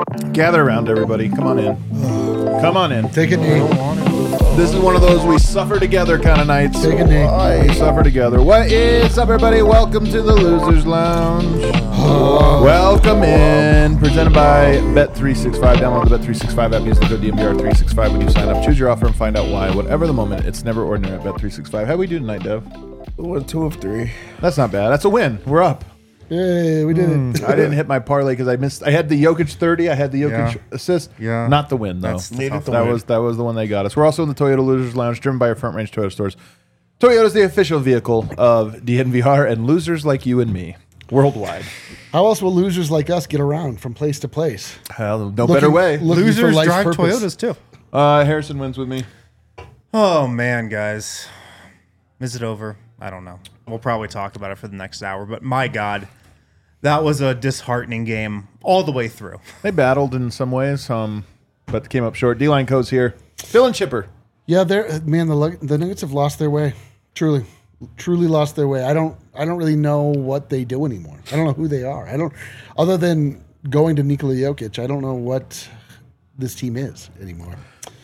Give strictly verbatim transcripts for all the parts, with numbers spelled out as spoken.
Gather around, everybody. Come on in. Come on in. Take a knee. This is one of those we suffer together kind of nights. Take a knee. We suffer together. What is up, everybody? Welcome to the Losers Lounge. Welcome in. Presented by Bet three sixty-five. Download the Bet three sixty-five app. Use the code D M V R three sixty-five when you sign up. Choose your offer and find out why. Whatever the moment, it's never ordinary at Bet three sixty-five. How we do tonight, Dev? One, two of three. That's not bad. That's a win. We're up. Yay, we did Mm, it. I didn't hit my parlay because I missed. I had the Jokic thirty. I had the Jokic Yeah. assist. Yeah. Not the win, though. That's the Needed tough the That win. was that was the one they got us. We're also in the Toyota Losers Lounge, driven by our Front Range Toyota stores. Toyota is the official vehicle of D N V R and losers like you and me worldwide. How else will losers like us get around from place to place? Hell, no Looking- better way. looking for Losers life's drive purpose. Toyotas too. Uh, Harrison wins with me. Oh man, guys, is it over? I don't know. We'll probably talk about it for the next hour. But my God, that was a disheartening game all the way through. They battled in some ways, um, but came up short. D-Line Co's here. Phil and Chipper. Yeah, they're man. The Lug- the Nuggets have lost their way. Truly, truly lost their way. I don't. I don't really know what they do anymore. I don't know who they are. I don't. Other than going to Nikola Jokic, I don't know what this team is anymore.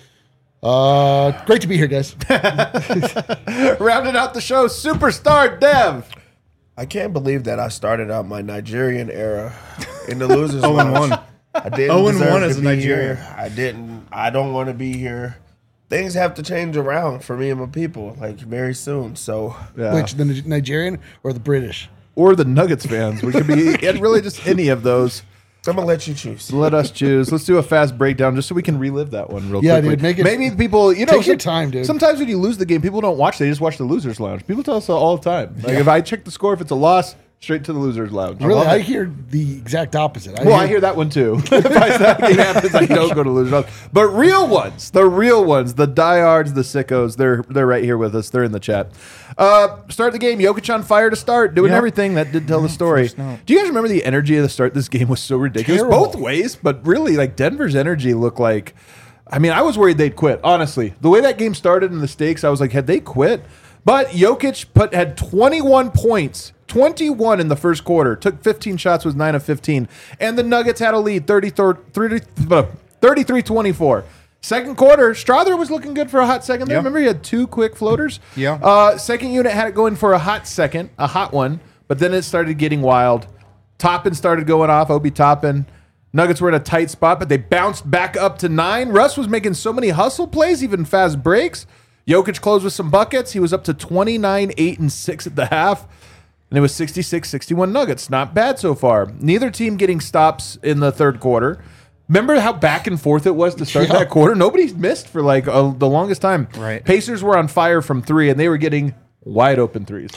Uh, great to be here, guys. Rounding out the show, superstar Dev. I can't believe that I started out my Nigerian era in the losers Oh and lounge. one. I didn't Oh and deserve one to as a be Nigerian. here. I didn't. I don't want to be here. Things have to change around for me and my people, like very soon. So Yeah. Which the Ni- Nigerian or the British? Or the Nuggets fans. We could be and really just any of those. I'm gonna let you choose. Let us choose. Let's do a fast breakdown just so we can relive that one real Yeah, quickly. dude, make it- Maybe people, you know, take your time, dude. Sometimes when you lose the game, people don't watch. They just watch the Losers Lounge. People tell us that all the time. Like if I check the score, if it's a loss, straight to the Losers Lounge. Really, love I it. hear the exact opposite. I Well, I hear that one too. If I that game happens, I don't go to Losers Lounge. But real ones, the real ones, the diehards, the sickos, they're they're right here with us. They're in the chat. Uh, start the game. Jokic on fire to start, doing Yeah. everything. That did tell the story. first note. Do you guys remember the energy of the start? This game was so ridiculous, Terrible. both ways. But really, like Denver's energy looked like. I mean, I was worried they'd quit. Honestly, the way that game started and the stakes, I was like, had they quit? But Jokic put had twenty-one points. twenty-one in the first quarter. Took fifteen shots, was nine of fifteen. And the Nuggets had a lead, thirty-three twenty-four. Second quarter, Strother was looking good for a hot second there. Yeah. Remember, he had two quick floaters? Yeah. Uh, second unit had it going for a hot second, a hot one. But then it started getting wild. Toppin started going off, Obi Toppin. Nuggets were in a tight spot, but they bounced back up to nine. Russ was making so many hustle plays, even fast breaks. Jokic closed with some buckets. He was up to twenty-nine, eight, and six at the half. And it was sixty-six sixty-one Nuggets. Not bad so far. Neither team getting stops in the third quarter. Remember how back and forth it was to start Yeah. that quarter? Nobody missed for like uh, the longest time. Right. Pacers were on fire from three, and they were getting wide open threes.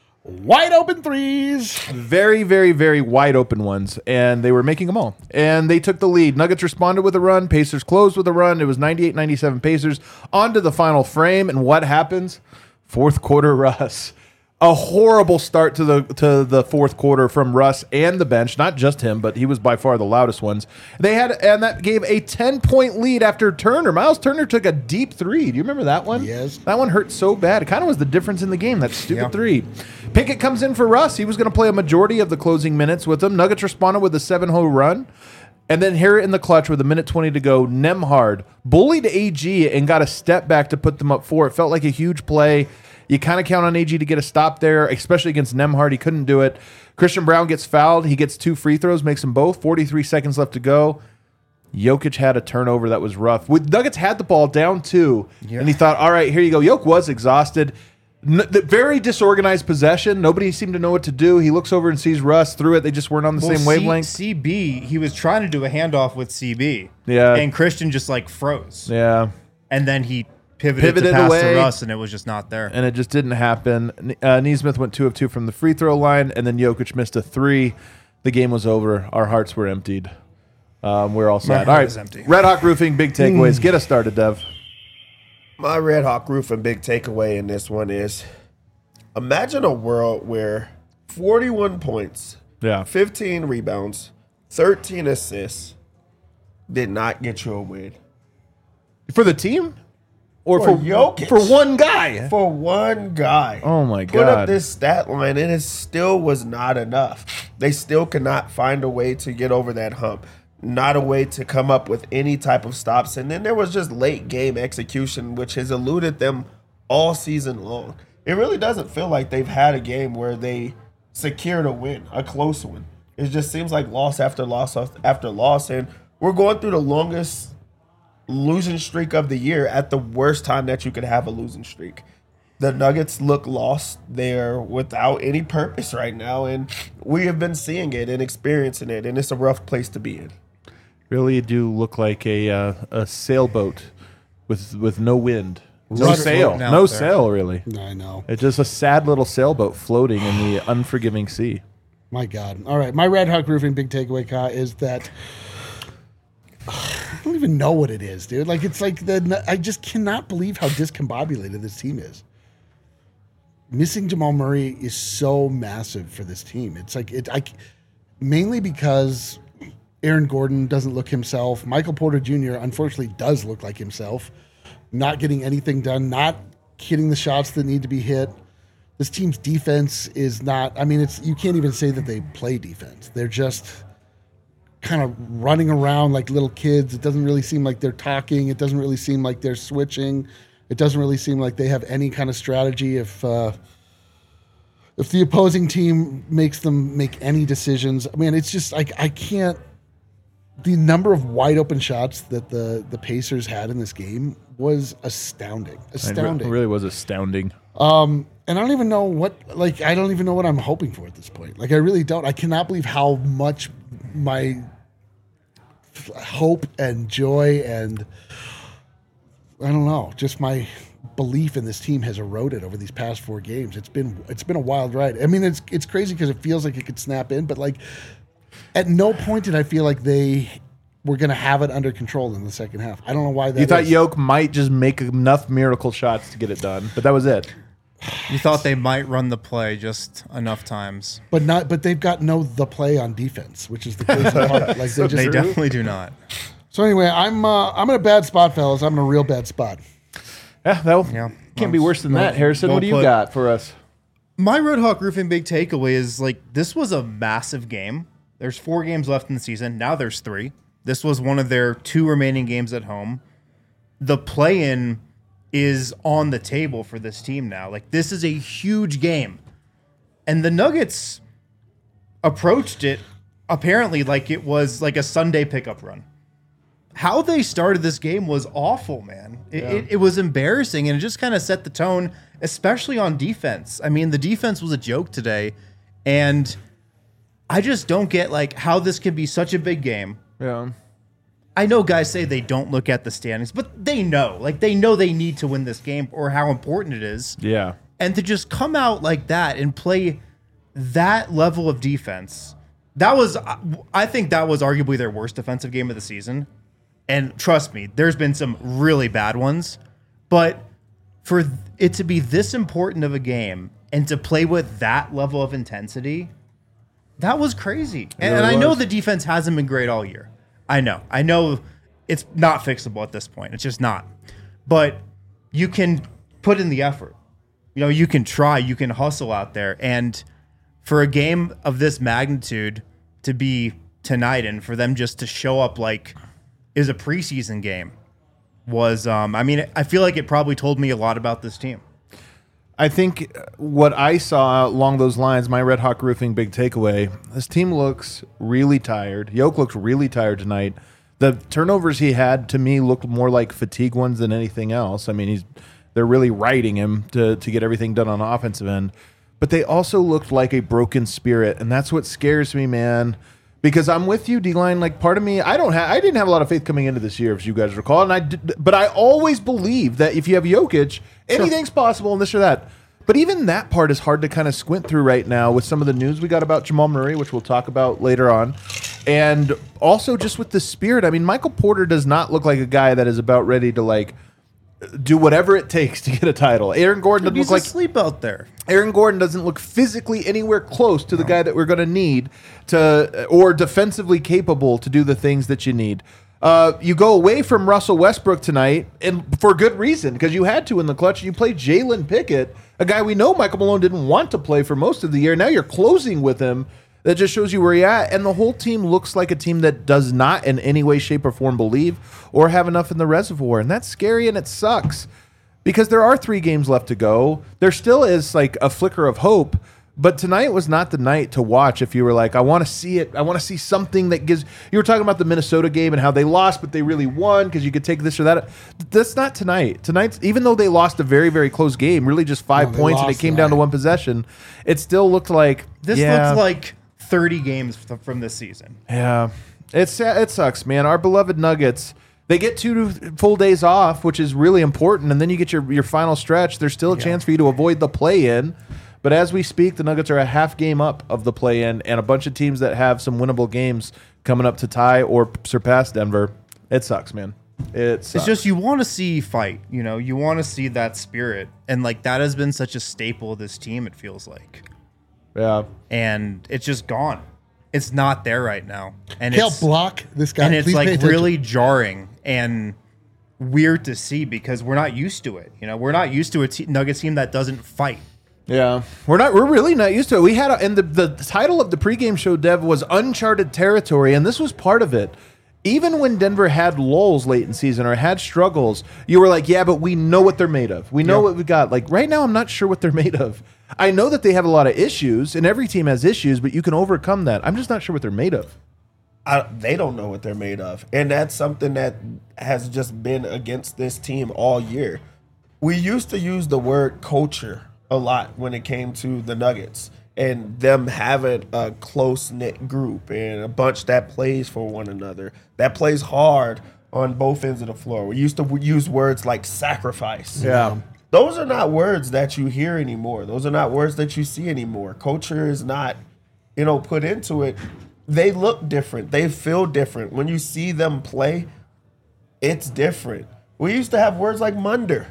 wide open threes. Very, very, very wide open ones, and they were making them all. And they took the lead. Nuggets responded with a run. Pacers closed with a run. It was ninety-eight ninety-seven Pacers. On to the final frame, and what happens? Fourth quarter Russ. A horrible start to the to the fourth quarter from Russ and the bench. Not just him, but he was by far the loudest ones. They had, and that gave a ten-point lead after Turner. Miles Turner took a deep three. Do you remember that one? Yes. That one hurt so bad. It kind of was the difference in the game, that stupid Yeah. three. Pickett comes in for Russ. He was going to play a majority of the closing minutes with them. Nuggets responded with a seven-hole run. And then here in the clutch with a minute twenty to go, Nembhard bullied A G and got a step back to put them up four. It felt like a huge play. You kind of count on A G to get a stop there, especially against Nembhard. He couldn't do it. Christian Brown gets fouled. He gets two free throws, makes them both. forty-three seconds left to go. Jokic had a turnover that was rough. With Nuggets had the ball down two, Yeah. and he thought, all right, here you go. Jokic was exhausted. N- the very disorganized possession. Nobody seemed to know what to do. He looks over and sees Russ, threw it. They just weren't on the Well, same wavelength. C- CB, he was trying to do a handoff with C B. Yeah. And Christian just like froze. Yeah. And then he pivoted, Pivoted to pass away. to Russ, and it was just not there. And it just didn't happen. Uh, Neesmith went two of two from the free throw line, and then Jokic missed a three. The game was over. Our hearts were emptied. Um, we're all sad. heart All right, is empty. Red Hawk Roofing, big takeaways. Get us started, Dev. My Red Hawk Roof and big takeaway in this one is: imagine a world where forty-one points, Yeah. fifteen rebounds, thirteen assists did not get you a win. For the team? Or For for, Jokic. for one guy? For one guy. Oh, my Put up God. this stat line, and it still was not enough. They still cannot find a way to get over that hump. not a way to come up with any type of stops. And then there was just late game execution, which has eluded them all season long. It really doesn't feel like they've had a game where they secured a win, a close one. It just seems like loss after loss after loss. And we're going through the longest losing streak of the year at the worst time that you could have a losing streak. The Nuggets look lost. They're without any purpose right now, and we have been seeing it and experiencing it, and it's a rough place to be in. Really do look like a uh, a sailboat with with no wind, no Rudder- sail, floating out no there. sail. Really, I know. it's just a sad little sailboat floating in the unforgiving sea. My God. All right. My Red Hawk Roofing big takeaway, Ka, is that I don't even know what it is, dude. Like, it's like the I just cannot believe how discombobulated this team is. Missing Jamal Murray is so massive for this team. It's like it. I mainly because Aaron Gordon doesn't look himself. Michael Porter Junior unfortunately does look like himself. Not getting anything done. Not hitting the shots that need to be hit. This team's defense is not. I mean, it's you can't even say that they play defense. They're just kind of running around like little kids. It doesn't really seem like they're talking. It doesn't really seem like they're switching. It doesn't really seem like they have any kind of strategy if uh, if the opposing team makes them make any decisions. I mean, it's just like I can't. The number of wide open shots that the the Pacers had in this game was astounding. Astounding. It really was astounding. Um, and I don't even know what like I don't even know what I'm hoping for at this point. Like I really don't. I cannot believe how much my hope and joy and I don't know, just my belief in this team has eroded over these past four games. It's been it's been a wild ride. I mean, it's it's crazy because it feels like it could snap in, but like at no point did I feel like they were going to have it under control in the second half. I don't know why that You thought is. Yoke might just make enough miracle shots to get it done, but that was it. You thought they might run the play just enough times. but not but they've got no the play on defense, which is the crazy part. Like they just They definitely do not. So anyway, I'm uh, I'm in a bad spot, fellas. I'm in a real bad spot. Yeah, that Yeah. can't be worse than that. Harrison, well what do you put. got for us? My Red Hawk Roofing big takeaway is like this was a massive game. There's four games left in the season. Now there's three. This was one of their two remaining games at home. The play-in is on the table for this team now. Like this is a huge game. And the Nuggets approached it apparently like it was like a Sunday pickup run. How they started this game was awful, man. It, it, it was embarrassing, and it just kind of set the tone, especially on defense. I mean, the defense was a joke today, and I just don't get like how this could be such a big game. Yeah. I know guys say they don't look at the standings, but they know. Like, they know they need to win this game or how important it is. Yeah. And to just come out like that and play that level of defense, that was, I think that was arguably their worst defensive game of the season. And trust me, there's been some really bad ones. But for it to be this important of a game and to play with that level of intensity, that was crazy. And, and really I know was. the defense hasn't been great all year. I know. I know it's not fixable at this point. It's just not. But you can put in the effort. You know, you can try, you can hustle out there. And for a game of this magnitude to be tonight and for them just to show up like is a preseason game was, um, I mean, I feel like it probably told me a lot about this team. I think what I saw along those lines, my Red Hawk Roofing big takeaway, this team looks really tired. Yoke looks really tired tonight. The turnovers he had, to me, looked more like fatigue ones than anything else. I mean, he's they're really riding him to, to get everything done on the offensive end. But they also looked like a broken spirit, and that's what scares me, man. Because I'm with you, D-Line. Like, part of me, I don't have, I didn't have a lot of faith coming into this year, if you guys recall. And I, did, but I always believe that if you have Jokic, anything's possible and this or that. But even that part is hard to kind of squint through right now with some of the news we got about Jamal Murray, which we'll talk about later on. And also just with the spirit. I mean, Michael Porter does not look like a guy that is about ready to, like, do whatever it takes to get a title. Aaron Gordon doesn't He's look like asleep out there. Aaron Gordon doesn't look physically anywhere close to the guy that we're going to need to, or defensively capable to do the things that you need. Uh, you go away from Russell Westbrook tonight, and for good reason, because you had to in the clutch. You play Jalen Pickett, a guy we know Michael Malone didn't want to play for most of the year. Now you're closing with him. That just shows you where you're at. And the whole team looks like a team that does not in any way, shape, or form believe or have enough in the reservoir. And that's scary and it sucks because there are three games left to go. There still is like a flicker of hope. But tonight was not the night to watch if you were like, I want to see it. I want to see something that gives. You were talking about the Minnesota game and how they lost, but they really won because you could take this or that. That's not tonight. Tonight, even though they lost a very, very close game, really just five No, points and it came down to one possession, it still looked like. This yeah, looks like thirty games f- from this season. Yeah. It's, it sucks, man. Our beloved Nuggets. They get two full days off, which is really important, and then you get your, your final stretch. There's still a yeah. chance for you to avoid the play-in. But as we speak, the Nuggets are a half game up of the play-in, and a bunch of teams that have some winnable games coming up to tie or surpass Denver. It sucks, man. It sucks. It's just you want to see fight. You know, you want to see that spirit, and like that has been such a staple of this team. It feels like, yeah, and it's just gone. It's not there right now, and He'll it's block this guy. and it's Please pay like attention. really jarring and weird to see because we're not used to it. You know, we're not used to a te- Nuggets team that doesn't fight. Yeah, we're not. We're really not used to it. We had, a, and the the title of the pregame show, Dev, was Uncharted Territory, and this was part of it. Even when Denver had lulls late in season or had struggles, you were like, yeah, but we know what they're made of. We know Yeah. what we got. Like right now, I'm not sure what they're made of. I know that they have a lot of issues, and every team has issues, but you can overcome that. I'm just not sure what they're made of. I, they don't know what they're made of. And that's something that has just been against this team all year. We used to use the word culture a lot when it came to the Nuggets and them having a close-knit group and a bunch that plays for one another, that plays hard on both ends of the floor. We used to use words like sacrifice. Yeah. Those are not words that you hear anymore. Those are not words that you see anymore. Culture is not, you know, put into it. They look different. They feel different. When you see them play, it's different. We used to have words like Munder.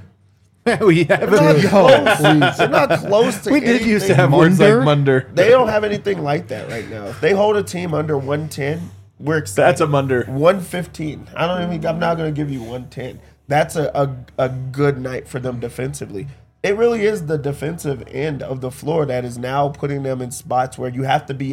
we have They're not it. close. They're not close to We did used to anything. have words like Munder? Munder. They don't have anything like that right now. If they hold a team under one ten, we're excited. That's a Munder. one fifteen. I don't even. I'm not going to give you one ten. That's a, a a good night for them defensively. It really is the defensive end of the floor that is now putting them in spots where you have to be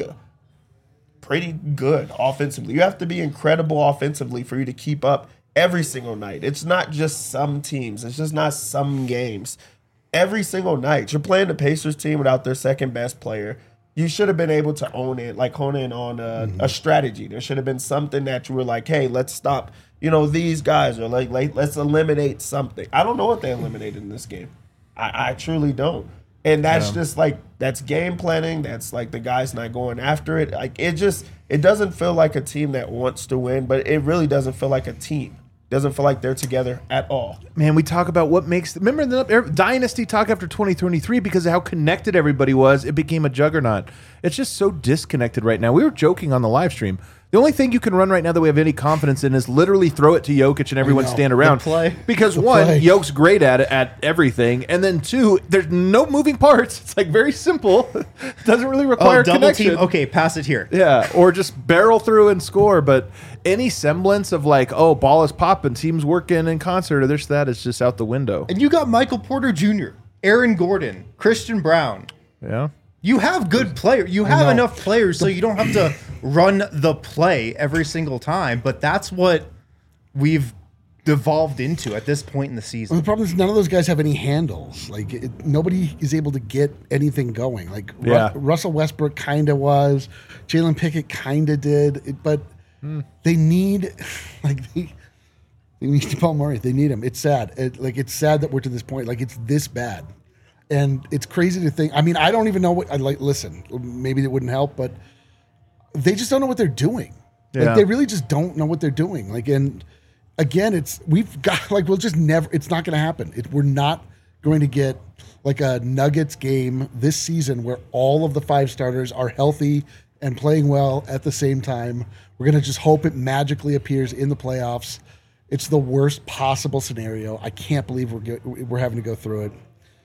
pretty good offensively. You have to be incredible offensively for you to keep up every single night. It's not just some teams. It's just not some games. Every single night. You're playing the Pacers team without their second best player. You should have been able to own it, like hone in on a, mm-hmm. a strategy. There should have been something that you were like, hey, let's stop, you know, these guys, or like, like let's eliminate something. I don't know what they eliminated in this game. I, I truly don't. And that's yeah. just like, that's game planning. That's like the guys not going after it. Like it just, it doesn't feel like a team that wants to win, but it really doesn't feel like a team. Doesn't feel like they're together at all. Man, we talk about what makes... Remember the Dynasty talk after twenty twenty-three because of how connected everybody was, it became a juggernaut. It's just so disconnected right now. We were joking on the live stream. The only thing you can run right now that we have any confidence in is literally throw it to Jokic and everyone stand around. play. Because The one, play. Jokic's great at it, at everything. And then two, there's no moving parts. It's like very simple. It doesn't really require Oh, double connection. team. Okay, pass it here. Yeah, or just barrel through and score. But any semblance of like, oh, ball is popping, teams working in concert, or this, that is just out the window. And you got Michael Porter Junior, Aaron Gordon, Christian Brown. Yeah. You have good players. You have know. enough players so you don't have to run the play every single time. But that's what we've devolved into at this point in the Well, season. the problem is none of those guys have any handles. Like it, nobody is able to get anything going. Like Ru- Yeah. Russell Westbrook kind of was, Jalen Pickett kind of did, it, but they need like they, they need Jamal Murray. They need him. It's sad. It, like it's sad that we're to this point. Like it's this bad, and it's crazy to think. I mean, I don't even know what I like. Listen, maybe it wouldn't help, but they just don't know what they're doing. Yeah. Like they really just don't know what they're doing. Like and. Again, it's we've got like we'll just never. It's not going to happen. It, we're not going to get like a Nuggets game this season where all of the five starters are healthy and playing well at the same time. We're going to just hope it magically appears in the playoffs. It's the worst possible scenario. I can't believe we're go- we're having to go through it.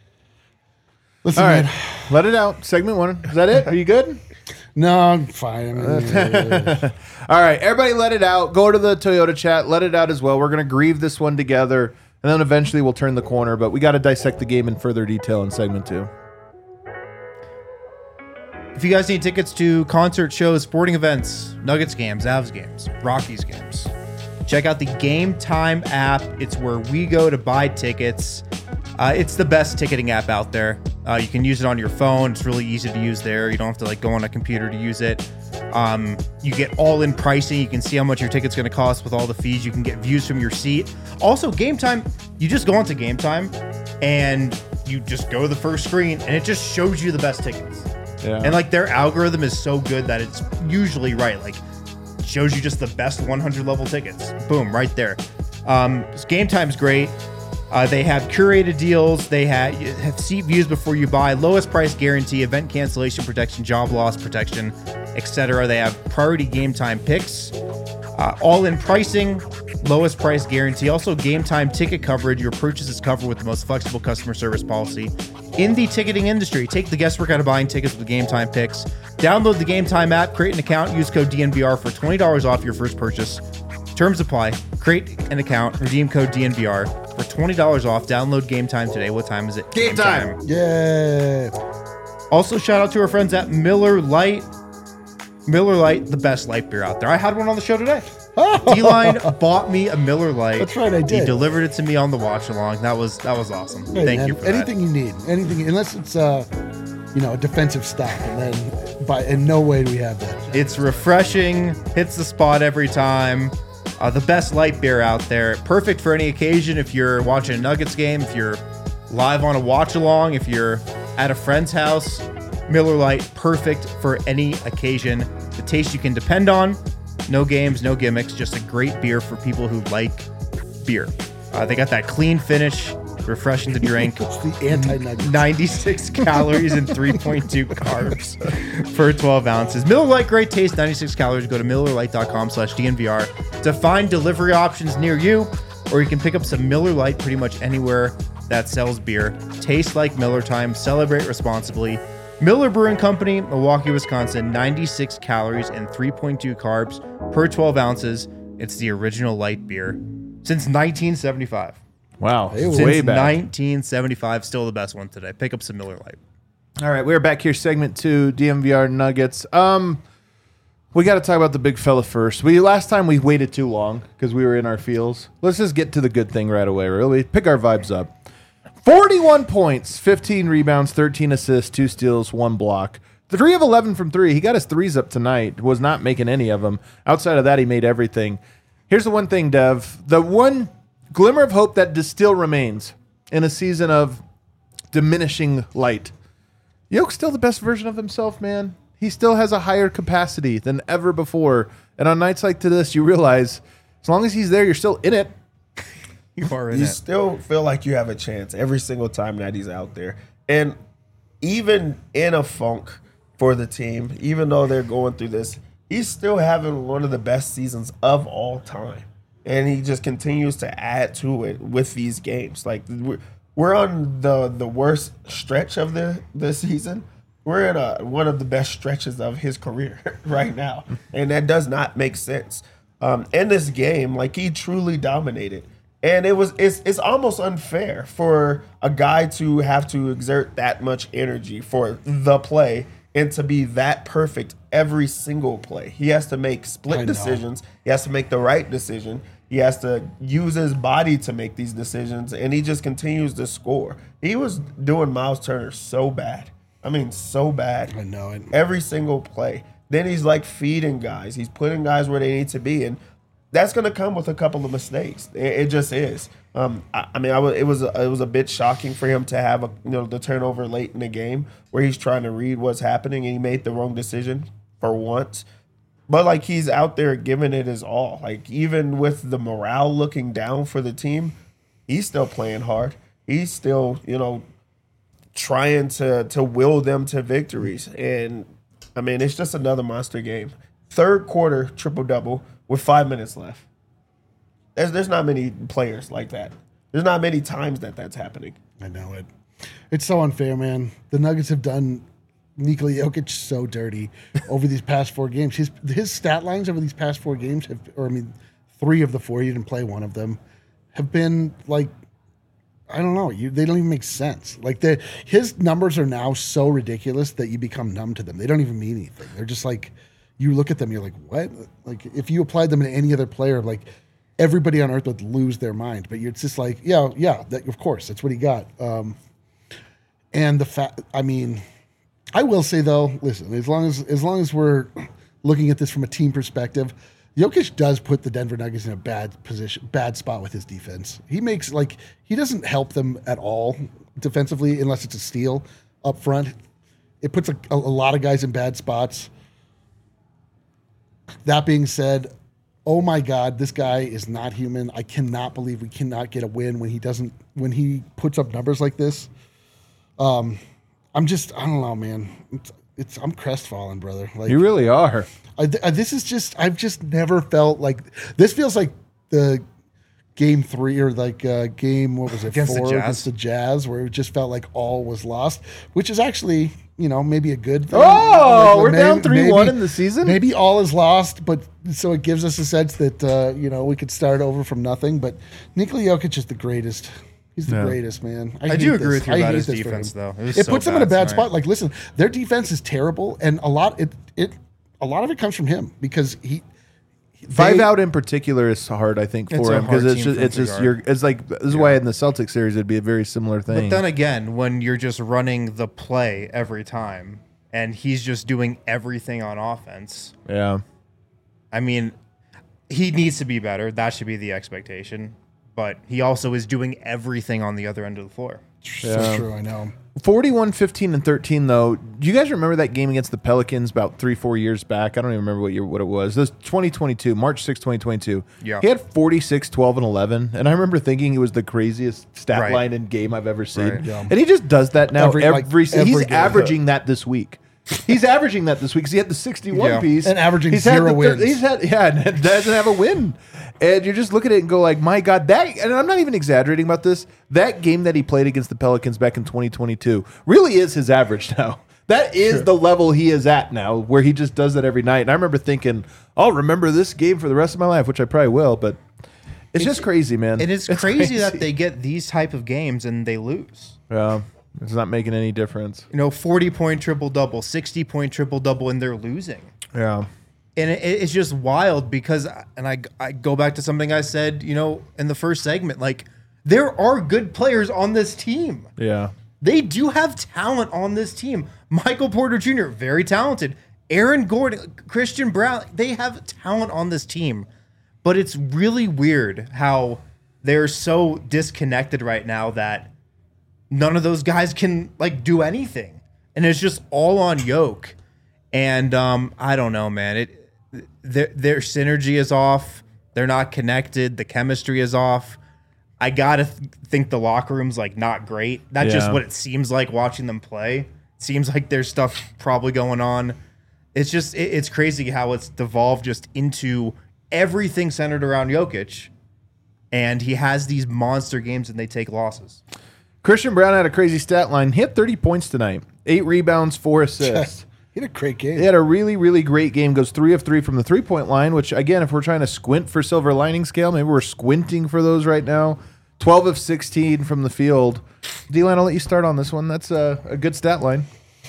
Listen, All right, man. let it out. Segment one. Is that it? Are you good? No, I'm fine. I mean, uh, All right, everybody let it out. Go to the Toyota chat. Let it out as well. We're going to grieve this one together, and then eventually we'll turn the corner, but we got to dissect the game in further detail in segment two. If you guys need tickets to concert shows, sporting events, Nuggets games, Avs games, Rockies games, check out the Game Time app. It's where we go to buy tickets. Uh, it's the best ticketing app out there. Uh, you can use it on your phone. It's really easy to use there. You don't have to like go on a computer to use it. Um, you get all-in pricing. You can see how much your ticket's going to cost with all the fees. You can get views from your seat. Also, Game Time, you just go onto Game Time and you just go to the first screen and it just shows you the best tickets. Yeah. And like their algorithm is so good that it's usually right. Like shows you just the best one hundred level tickets. Boom, right there. Um, Game Time's great. Uh, they have curated deals. They have, have seat views before you buy, lowest price guarantee, event cancellation protection, job loss protection, et cetera. They have priority Game Time picks, uh, all-in pricing, lowest price guarantee. Also, Game Time ticket coverage. Your purchase is covered with the most flexible customer service policy in the ticketing industry. Take the guesswork out of buying tickets with Game Time picks. Download the Game Time app, create an account, use code D N V R for twenty dollars off your first purchase. Terms apply. Create an account, redeem code D N V R for twenty dollars off. Download Game Time today. What time is it? Game Time. Yeah. Also, shout out to our friends at Miller Lite. Miller Lite, the best light beer out there. I had one on the show today. D-Line bought me a Miller Lite. That's right, I did. He delivered it to me on the watch along. That was that was awesome. Hey, Thank man, you for anything that. you need, anything unless it's uh, you know, a defensive stop, and then by in no way do we have that. It's refreshing, hits the spot every time. Uh, the best light beer out there. Perfect for any occasion. If you're watching a Nuggets game, if you're live on a watch along, if you're at a friend's house, Miller Lite, perfect for any occasion. The taste you can depend on. No games, no gimmicks. Just a great beer for people who like beer. Uh, they got that clean finish, refreshing to drink. It's the anti-nugget. ninety-six calories and three point two carbs for twelve ounces. Miller Lite, great taste, ninety-six calories. Go to millerlite.com slash DNVR to find delivery options near you, or you can pick up some Miller Lite pretty much anywhere that sells beer. Taste like Miller time. Celebrate responsibly. Miller Brewing Company, Milwaukee, Wisconsin, ninety-six calories and three point two carbs per twelve ounces. It's the original light beer since nineteen seventy-five. Wow. Hey, Way Since back. nineteen seventy-five, still the best one today. Pick up some Miller Lite. All right, we're back here, segment two, D M V R Nuggets. Um, we got to talk about the big fella first. We last time we waited too long because we were in our feels. Let's just get to the good thing right away. Really, pick our vibes up. forty-one points, fifteen rebounds, thirteen assists, two steals, one block. three of eleven from three. He got his threes up tonight. Was not making any of them. Outside of that, he made everything. Here's the one thing, Dev. The one glimmer of hope that still remains in a season of diminishing light. Yoke's still the best version of himself, man. He still has a higher capacity than ever before. And on nights like this, you realize as long as he's there, you're still in it. You are in You it. still feel like you have a chance every single time that he's out there. And even in a funk for the team, even though they're going through this, he's still having one of the best seasons of all time. And he just continues to add to it with these games. Like we're, we're on the, the worst stretch of the, the season. We're in a, one of the best stretches of his career right now. And that does not make sense. Um, in this game, like he truly dominated. And it was it's it's almost unfair for a guy to have to exert that much energy for the play and to be that perfect every single play. He has to make I split know. decisions. He has to make the right decision. He has to use his body to make these decisions, and he just continues to score. He was doing Miles Turner so bad. I mean, so bad. I know it. Every single play. Then he's like feeding guys. He's putting guys where they need to be, and that's going to come with a couple of mistakes. It, it just is. Um, I, I mean, I was, it was a, it was a bit shocking for him to have a you know the turnover late in the game where he's trying to read what's happening and he made the wrong decision for once. But like he's out there giving it his all. Like even with the morale looking down for the team, he's still playing hard. He's still you know trying to to will them to victories. And I mean, it's just another monster game. Third quarter triple double with five minutes left. There's there's not many players like that. There's not many times that that's happening. I know it. It's so unfair, man. The Nuggets have done Nikola Jokic so dirty over these past four games. His his stat lines over these past four games have, or I mean, three of the four. He didn't play one of them. Have been like I don't know. You, they don't even make sense. Like the his numbers are now so ridiculous that you become numb to them. They don't even mean anything. They're just like, you look at them, you're like, what? Like if you applied them to any other player, like everybody on earth would lose their mind. But it's just like, yeah, yeah, that, of course, that's what he got. Um, and the fact, I mean, I will say though, listen, as long as as long as we're looking at this from a team perspective, Jokic does put the Denver Nuggets in a bad position, bad spot with his defense. He makes like he doesn't help them at all defensively unless it's a steal up front. It puts a, a, a lot of guys in bad spots. That being said, oh my God, this guy is not human. I cannot believe we cannot get a win when he doesn't when he puts up numbers like this. Um, I'm just I don't know, man. It's, it's I'm crestfallen, brother. Like You really are. I, I, this is just I've just never felt like this feels like the game three or like uh, game what was it Against the four Jazz. against the Jazz where it just felt like all was lost, which is actually you know maybe a good thing. Oh, Like, we're maybe- down three one maybe- in the season? Maybe all is lost, but so it gives us a sense that uh, you know we could start over from nothing. But Nikola Jokic is the greatest. He's the Yeah. greatest, man. I hate do agree this. with you I about hate his this for defense, him. though. It was It so puts them in a bad bad tonight. spot. Like, listen, their defense is terrible, and a lot it it a lot of it comes from him because he Five they- out in particular is hard, I think, It's for a him because hard it's team just for him it's to just guard. you're it's like this is why in the Celtics series it'd be a very similar thing. But then again, when you're just running the play every time and he's just doing everything on offense, yeah, I mean, he needs to be better. That should be the expectation. But he also is doing everything on the other end of the floor. So Yeah. true, I know. forty-one, fifteen, and thirteen though. Do you guys remember that game against the Pelicans about three, four years back? I don't even remember what year what it was. This twenty twenty-two, March sixth, twenty twenty-two. Yeah. He had forty-six, twelve, and eleven. And I remember thinking it was the craziest stat Right. line in game I've ever seen. Right. Yeah. And he just does that now every, Every- like, se- every He's game. averaging that this week. He's averaging that this week because he had the sixty-one Yeah. piece And averaging he's had zero the thir- wins. He's had yeah, and doesn't have a win. And you just look at it and go like, my God, that and I'm not even exaggerating about this. That game that he played against the Pelicans back in twenty twenty-two really is his average now. That is Sure. the level he is at now, where he just does that every night. And I remember thinking, I'll remember this game for the rest of my life, which I probably will. But it's, just crazy, man. It is crazy, that they get these type of games and they lose. Yeah, it's not making any difference. You know, forty-point triple-double, sixty-point triple-double, and they're losing. Yeah. And it, it's just wild because, and I, I go back to something I said, you know, in the first segment, like, there are good players on this team. Yeah. They do have talent on this team. Michael Porter Junior, very talented. Aaron Gordon, Christian Brown, they have talent on this team. But it's really weird how they're so disconnected right now that none of those guys can, like, do anything. And it's just all on Yoke. And um, I don't know, man. It their their synergy is off. They're not connected. The chemistry is off. I gotta th- think the locker room's like not great. That's just Yeah. what it seems like watching them play. Seems like there's stuff probably going on. It's just it, it's crazy how it's devolved just into everything centered around Jokic, and he has these monster games and they take losses. Christian Brown had a crazy stat line. He had thirty points tonight, eight rebounds, four assists. He had a great game. He had a really, really great game. Goes three of three from the three-point line, which, again, if we're trying to squint for silver lining scale, maybe we're squinting for those right now. twelve of sixteen from the field. D-Line, I'll let you start on this one. That's a, a good stat line.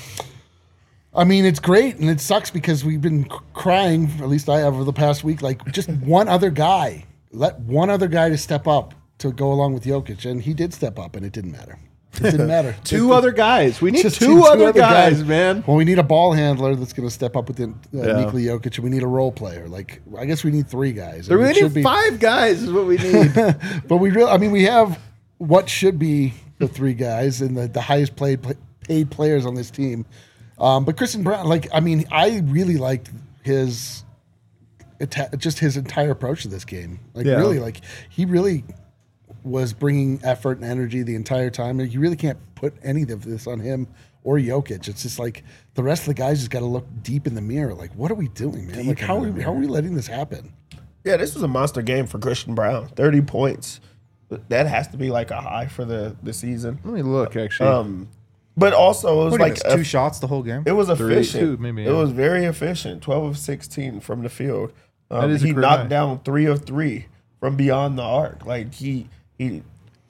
I mean, it's great, and it sucks because we've been c- crying, at least I have over the past week, like just one other guy. Let one other guy to step up to go along with Jokic, and he did step up, and it didn't matter. It didn't matter. Two other guys. We need Just two, other guys, man. Well, we need a ball handler that's going to step up with the, uh, Yeah. Nikola Jokic, and we need a role player. Like, I guess we need three guys. We I mean, it should need be- five guys is what we need. But we really, I mean, we have what should be the three guys and the, the highest played paid players on this team. Um, but Christian Brown, like, I mean, I really liked his ita- just his entire approach to this game. Like, Yeah. really, like he really was bringing effort and energy the entire time. And you really can't put any of this on him or Jokic. It's just like the rest of the guys just got to look deep in the mirror. Like, what are we doing, man? Like, how are we, how are we letting this happen? Yeah, this was a monster game for Christian Brown. thirty points. That has to be like a high for the, the season. Let me look, actually. Um, but also it was What do you like miss, two a- shots the whole game. it was Three, efficient. two, maybe, It yeah. was very efficient. twelve of sixteen from the field. Um, That is a he career knocked high. down three of three from beyond the arc. Like he he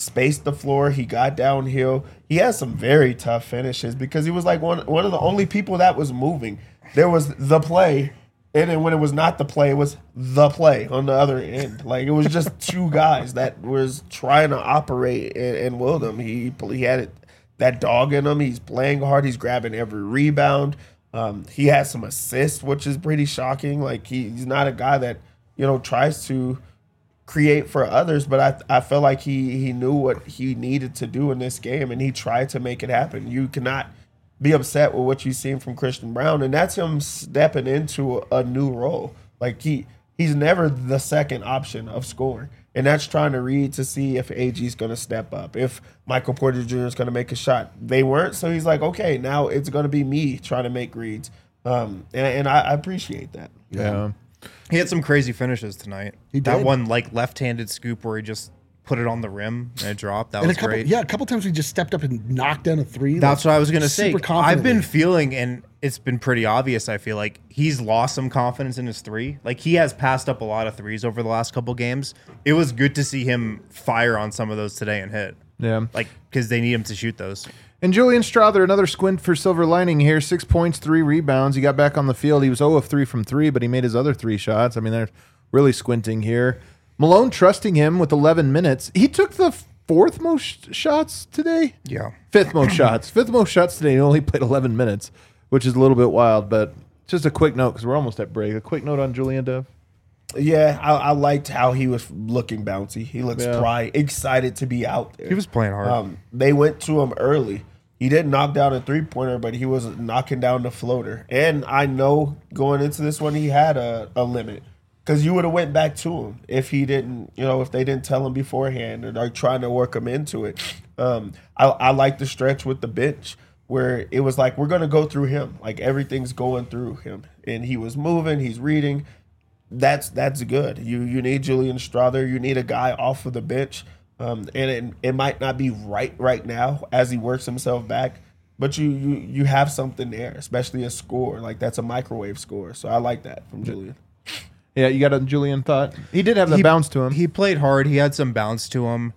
spaced the floor. He got downhill. He had some very tough finishes because he was like one one of the only people that was moving. There was the play, and then when it was not the play, it was the play on the other end. Like it was just two guys that was trying to operate and, and willed him. He he had it, that dog in him. He's playing hard. He's grabbing every rebound. Um, he has some assists, which is pretty shocking. Like he, he's not a guy that, you know, tries to create for others, but I I feel like he he knew what he needed to do in this game, and he tried to make it happen. You cannot be upset with what you've seen from Christian Braun, and that's him stepping into a, a new role. Like he he's never the second option of scoring, and that's trying to read to see if A G's going to step up, if Michael Porter Junior is going to make a shot. They weren't, so he's like, okay, now it's going to be me trying to make reads, um, and, and I, I appreciate that. Yeah. He had some crazy finishes tonight. He that did. one like left-handed scoop where he just put it on the rim and it dropped. That And was a couple, great. yeah, a couple times we just stepped up and knocked down a three. That's like, what I was gonna say. super I've confidently. been feeling, and it's been pretty obvious. I feel like he's lost some confidence in his three. Like he has passed up a lot of threes over the last couple games. It was good to see him fire on some of those today and hit. Yeah. Like because they need him to shoot those. And Julian Strother, another squint for Silver Lining here. Six points, three rebounds. He got back on the field. He was zero of three from three, but he made his other three shots. I mean, they're really squinting here. Malone trusting him with eleven minutes. He took the fourth most shots today. Yeah. Fifth most shots. Fifth most shots today. He only played eleven minutes, which is a little bit wild. But just a quick note, because we're almost at break. A quick note on Julian, Dev. Yeah, I, I liked how he was looking bouncy. He looks Yeah. pride, excited to be out there. He was playing hard. Um, they went to him early. He didn't knock down a three-pointer, but he was knocking down the floater. And I know going into this one, he had a, a limit. Because you would have went back to him if he didn't, you know, if they didn't tell him beforehand or are trying to work him into it. Um, I, I like the stretch with the bench where it was like, we're going to go through him. Like everything's going through him. And he was moving, he's reading. That's that's good. You you need Julian Strother. You need a guy off of the bench. Um, and it, it might not be right right now as he works himself back. But you, you, you have something there, especially a score. Like that's a microwave score. So I like that from Julian. Yeah, you got a Julian thought? He did have the He- bounce to him. He played hard. He had some bounce to him.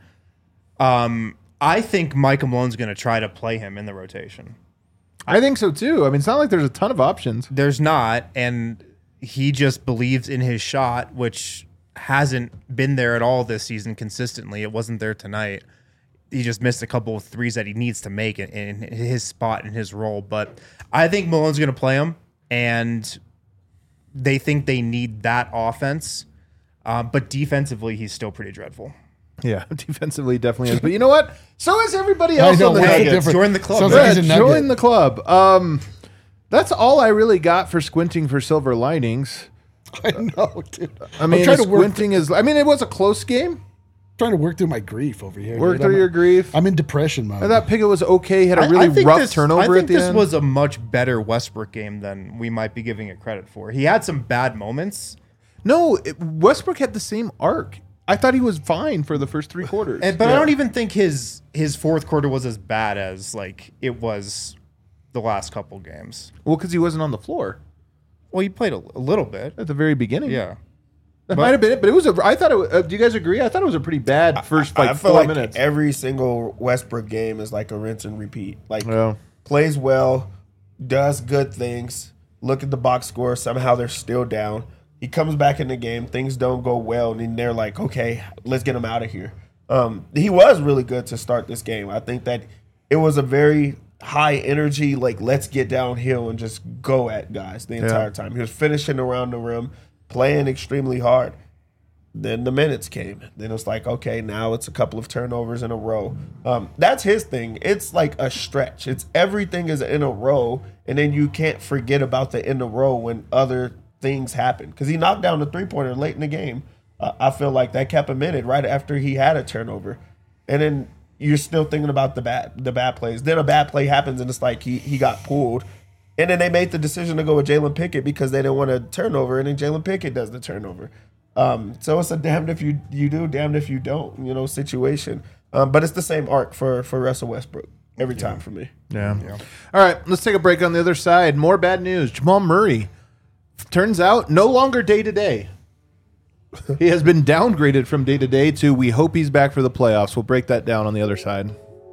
Um, I think Michael Malone's going to try to play him in the rotation. I think so, too. I mean, it's not like there's a ton of options. There's not, and he just believes in his shot, which hasn't been there at all this season consistently. It wasn't there tonight. He just missed a couple of threes that he needs to make in, in his spot and his role. But I think Malone's going to play him, and they think they need that offense. Uh, but defensively, he's still pretty dreadful. Yeah, defensively definitely is. But you know what? So is everybody I else know, on the what's the Nuggets. difference? Join the club, Sounds right? like he's a Yeah, Nugget. join the club. Um, that's all I really got for squinting for Silver Linings. I know, dude. I mean, I'm trying the to work, squinting is. I mean, it was a close game. trying to work through my grief over here. Work dude. through I'm, your grief. I'm in depression mode. I thought Pickett was okay. He had a I- really I think rough this, turnover I think at the this end. was a much better Westbrook game than we might be giving it credit for. He had some bad moments, no, it, Westbrook had the same arc. I thought he was fine for the first three quarters. and, but I Yeah. don't even think his his fourth quarter was as bad as like it was the last couple games. Well, because he wasn't on the floor Well, he played a, a little bit. at the very beginning. Yeah. That might have been it, but it was a. I thought it. Was, uh, do you guys agree? I thought it was a pretty bad first like I feel four like minutes. every single Westbrook game is like a rinse and repeat. Like Yeah. plays well, does good things. Look at the box score. Somehow they're still down. He comes back in the game. Things don't go well, and then they're like, "Okay, let's get him out of here." Um, he was really good to start this game. I think that it was a very high energy, like let's get downhill and just go at guys the entire time. He was finishing around the rim, playing extremely hard. Then the minutes came. Then it was like, okay, now it's a couple of turnovers in a row. Um, that's his thing. It's like a stretch. It's everything is in a row, and then you can't forget about the in a row when other things happen. Because he knocked down the three-pointer late in the game. Uh, I feel like that kept him in it right after he had a turnover. And then you're still thinking about the bad the bad plays. Then a bad play happens, and it's like he, he got pulled. And then they made the decision to go with Jalen Pickett because they didn't want a turnover, and then Jalen Pickett does the turnover. Um, so it's a damned if you you do, damned if you don't, you know, situation. Um, but it's the same arc for for Russell Westbrook every time for me. Yeah. All right, let's take a break on the other side. More bad news. Jamal Murray turns out no longer day to day. He has been downgraded from day to day to we hope he's back for the playoffs. We'll break that down on the other side.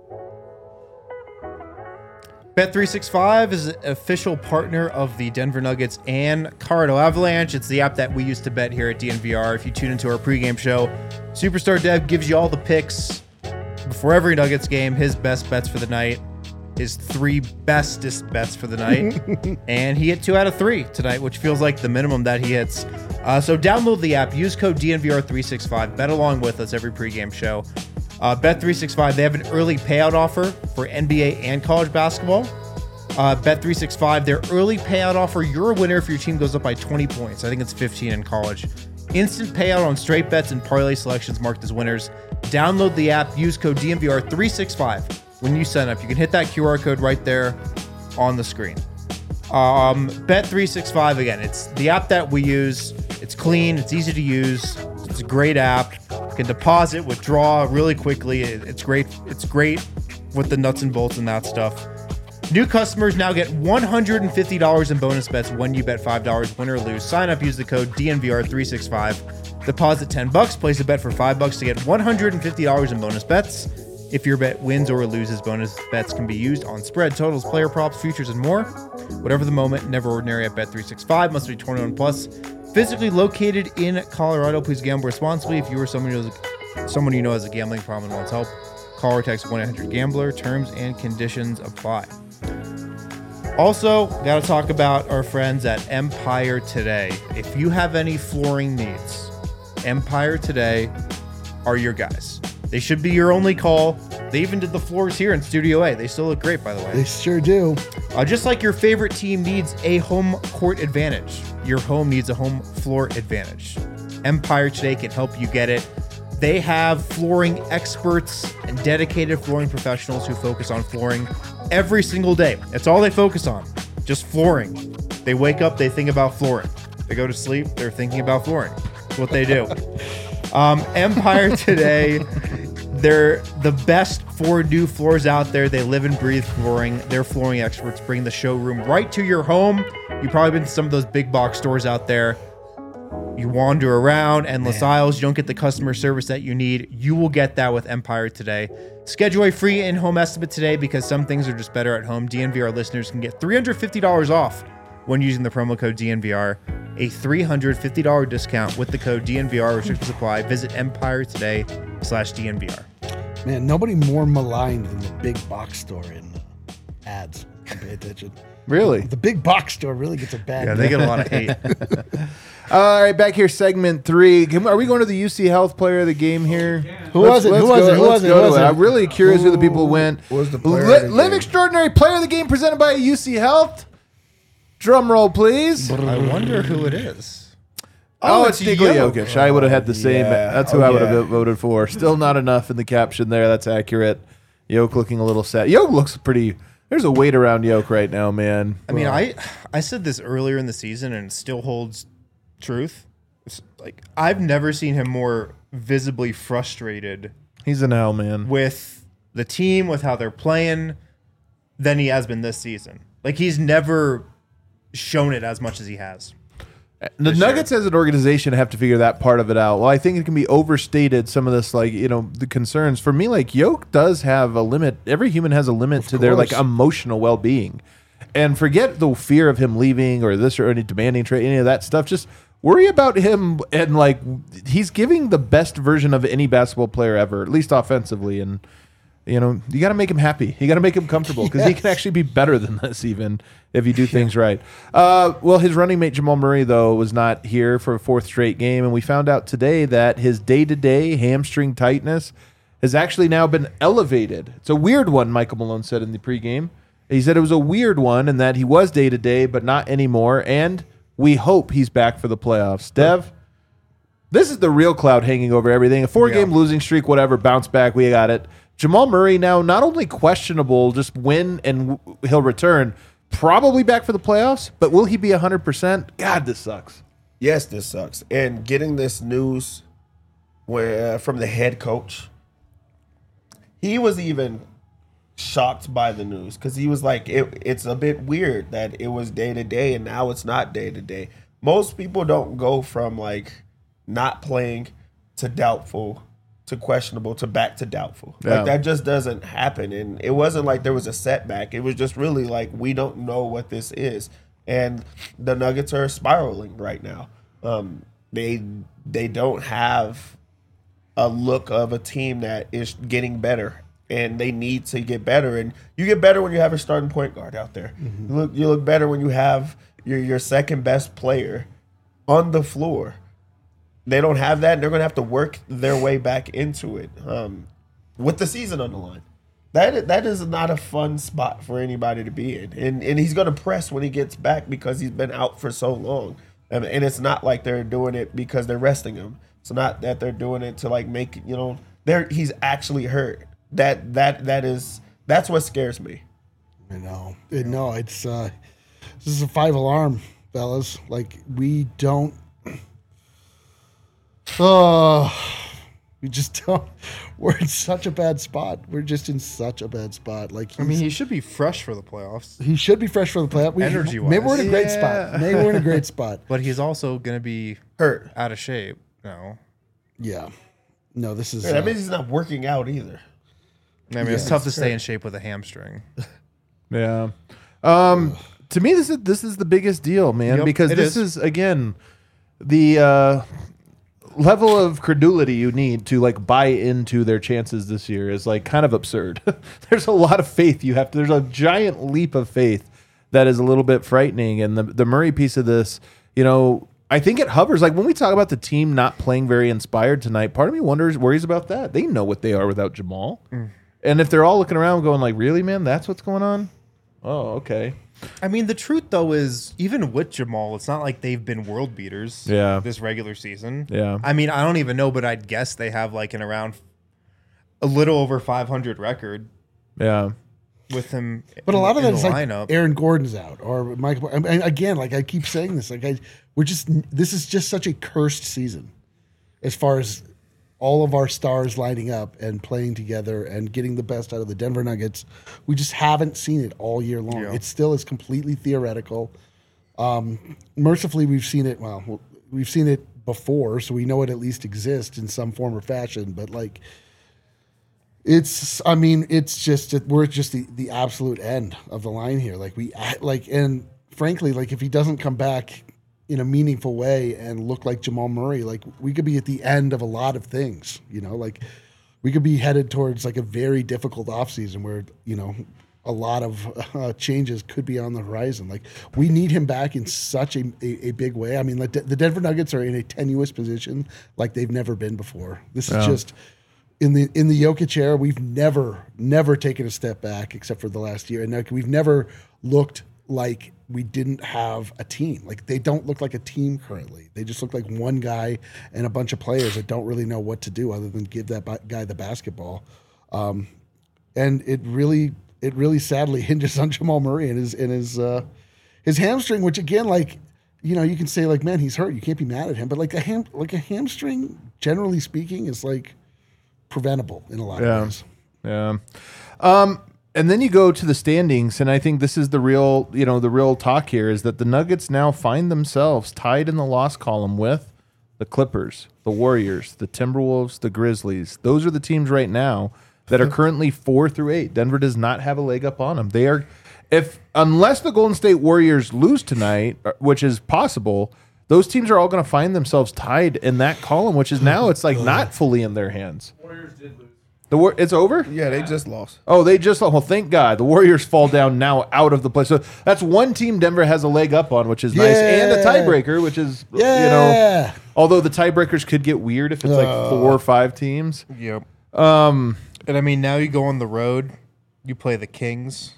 Bet three sixty-five is an official partner of the Denver Nuggets and Colorado Avalanche. It's the app that we used to bet here at D N V R. If you tune into our pregame show, Superstar Dev gives you all the picks before every Nuggets game, his best bets for the night, his three bestest bets for the night. And he hit two out of three tonight, which feels like the minimum that he hits. Uh, so download the app, use code D N V R three sixty-five, bet along with us every pregame show. Uh, Bet three sixty-five, they have an early payout offer for N B A and college basketball. Uh, Bet three sixty-five, their early payout offer, you're a winner if your team goes up by twenty points. I think it's fifteen in college. Instant payout on straight bets and parlay selections marked as winners. Download the app, use code D N V R three sixty-five when you sign up. You can hit that Q R code right there on the screen. Um, Bet three sixty-five, again, it's the app that we use. It's clean, it's easy to use, it's a great app. You can deposit, withdraw really quickly. It, it's great. It's great with the nuts and bolts and that stuff. New customers now get one hundred fifty dollars in bonus bets when you bet five dollars, win or lose. Sign up, use the code D N V R three sixty-five. Deposit ten bucks, place a bet for five bucks to get one hundred fifty dollars in bonus bets. If your bet wins or loses, bonus bets can be used on spread, totals, player props, futures, and more. Whatever the moment, never ordinary at Bet three sixty-five. Must be twenty-one plus. Physically located in Colorado. Please gamble responsibly. If you or someone you know, someone you know has a gambling problem and wants help, call or text one eight hundred gambler. Terms and conditions apply. Also, got to talk about our friends at Empire Today. If you have any flooring needs, Empire Today are your guys. They should be your only call. They even did the floors here in Studio A. They still look great, by the way. They sure do. Uh, just like your favorite team needs a home court advantage, your home needs a home floor advantage. Empire Today can help you get it. They have flooring experts and dedicated flooring professionals who focus on flooring every single day. That's all they focus on, just flooring. They wake up, they think about flooring. They go to sleep, they're thinking about flooring. That's what they do. Um, Empire Today, they're the best for new floors out there. They live and breathe flooring. Their flooring experts bring the showroom right to your home. You've probably been to some of those big box stores out there. You wander around, endless Man. aisles. You don't get the customer service that you need. You will get that with Empire Today. Schedule a free in-home estimate today because some things are just better at home. D N V R listeners can get three hundred fifty dollars off when using the promo code D N V R. A three hundred fifty dollars discount with the code D N V R. Restrictions apply. Visit Empire Today slash D N V R. Man, nobody more maligned than the big box store in uh, ads. Pay attention. Really? The big box store really gets a bad Yeah, they get a lot of hate. All right, back here, segment three. Can, are we going to the U C Health Player of the Game here? Who was it? Who was it? Who was it? Who was it? I'm really curious who, who the people went. Was the player Li- of the Live game? Extraordinary Player of the Game presented by U C Health. Drum roll, please. I wonder who it is. Oh, Oh, it's it's Nikola Jokic. Jokic. I would have had the same. Yeah. That's who Oh, I would have yeah. voted for. Still not enough in the caption there. That's accurate. Yoke looking a little sad. Yoke looks pretty. There's a weight around Yoke right now, man. I mean, I I said this earlier in the season and it still holds truth. It's like I've never seen him more visibly frustrated He's an L, man. with the team, with how they're playing, than he has been this season. Like he's never shown it as much as he has. The For Nuggets sure. as an organization have to figure that part of it out. Well, I think it can be overstated, some of this, like, you know, the concerns. For me, like, Yoke does have a limit. Every human has a limit to their, like, course. emotional well-being. And forget the fear of him leaving or this or any demanding trade, any of that stuff. Just worry about him and, like, he's giving the best version of any basketball player ever, at least offensively. And, you know, you got to make him happy. You got to make him comfortable because he can actually be better than this even if you do things right. Uh, well, his running mate Jamal Murray, though, was not here for a fourth straight game. And we found out today that his day-to-day hamstring tightness has actually now been elevated. It's a weird one, Michael Malone said in the pregame. He said it was a weird one and that he was day-to-day, but not anymore. And we hope he's back for the playoffs. Dev, this is the real cloud hanging over everything. A four-game Yeah. losing streak, whatever, bounce back, we got it. Jamal Murray now not only questionable, just when and w- he'll return, probably back for the playoffs, but will he be one hundred percent? God, this sucks. Yes, this sucks. And getting this news where uh, from the head coach, he was even shocked by the news because he was like, it, it's a bit weird that it was day to day and now it's not day to day. Most people don't go from like not playing to doubtful to questionable to back to doubtful. Yeah. Like that just doesn't happen. And it wasn't like there was a setback. It was just really like we don't know what this is. And the Nuggets are spiraling right now. Um, they they don't have a look of a team that is getting better. And they need to get better. And you get better when you have a starting point guard out there. Mm-hmm. You look you look better when you have your your second best player on the floor. They don't have that, and they're going to have to work their way back into it um, with the season on the line. That that is not a fun spot for anybody to be in, and and he's going to press when he gets back because he's been out for so long, and, and it's not like they're doing it because they're resting him. It's not that they're doing it to like make you know they're he's actually hurt. That that that is that's what scares me. I know, it, no, it's uh, this is a five alarm, fellas. Like we don't. Oh, we just don't. We're in such a bad spot. We're just in such a bad spot. Like I mean, he should be fresh for the playoffs. He should be fresh for the playoffs. We, Energy-wise. maybe we're in a great Yeah. spot. Maybe we're in a great spot. But he's also going to be Hurt. out of shape. No. Yeah. No, this is. Yeah, that uh, means he's not working out either. I mean, it's tough to stay in shape with a hamstring. Yeah. Um, to me, this is this is the biggest deal, man, Yep, because it this is. is again the uh, level of credulity you need to like buy into their chances this year is like kind of absurd. There's a lot of faith you have to. There's a giant leap of faith that is a little bit frightening, and the the Murray piece of this, you know. I think it hovers like when we talk about the team not playing very inspired tonight. Part of me wonders, worries about that. They know what they are without Jamal, Mm. and if they're all looking around going like, "Really, man? That's what's going on." Oh, okay. I mean, the truth, though, is even with Jamal, it's not like they've been world beaters Yeah. this regular season. Yeah. I mean, I don't even know, but I'd guess they have like an around a little over five hundred record Yeah. with him But a lot of in that is the like lineup. Aaron Gordon's out or Michael. And again, like I keep saying this, like I, we're just this is just such a cursed season, as far as all of our stars lining up and playing together and getting the best out of the Denver Nuggets. We just haven't seen it all year long. Yeah. It still is completely theoretical. Um, mercifully, we've seen it. Well, we've seen it before, so we know it at least exists in some form or fashion. But like. It's, I mean, it's just, we're just the, the absolute end of the line here. Like, we, like, and frankly, like, if he doesn't come back in a meaningful way and look like Jamal Murray, like, we could be at the end of a lot of things, you know? Like, we could be headed towards, like, a very difficult offseason where, you know, a lot of uh, changes could be on the horizon. Like, we need him back in such a, a, a big way. I mean, like, the Denver Nuggets are in a tenuous position like they've never been before. This is Yeah. just. In the in the Jokic era, we've never never taken a step back except for the last year, and like, we've never looked like we didn't have a team. Like they don't look like a team currently. They just look like one guy and a bunch of players that don't really know what to do other than give that ba- guy the basketball. Um, and it really it really sadly hinges on Jamal Murray and his and his uh, his hamstring, which again, like you know, you can say like, man, he's hurt. You can't be mad at him, but like a ham like a hamstring, generally speaking, is like. Preventable in a lot Yeah. of ways. Yeah. Um, and then you go to the standings, and I think this is the real, you know, the real talk here is that the Nuggets now find themselves tied in the loss column with the Clippers, the Warriors, the Timberwolves, the Grizzlies. Those are the teams right now that are currently four through eight. Denver does not have a leg up on them. They are, if unless the Golden State Warriors lose tonight, which is possible, those teams are all going to find themselves tied in that column, which is now it's like not fully in their hands. Warriors did lose. The war, it's over. Yeah, they just lost. Oh, they just well, thank God. The Warriors fall down now out of the play. So that's one team Denver has a leg up on, which is nice, and a Yeah. tiebreaker, which is you know. Yeah. Although the tiebreakers could get weird if it's like four or five teams. Yep. Um, And I mean, now you go on the road, you play the Kings.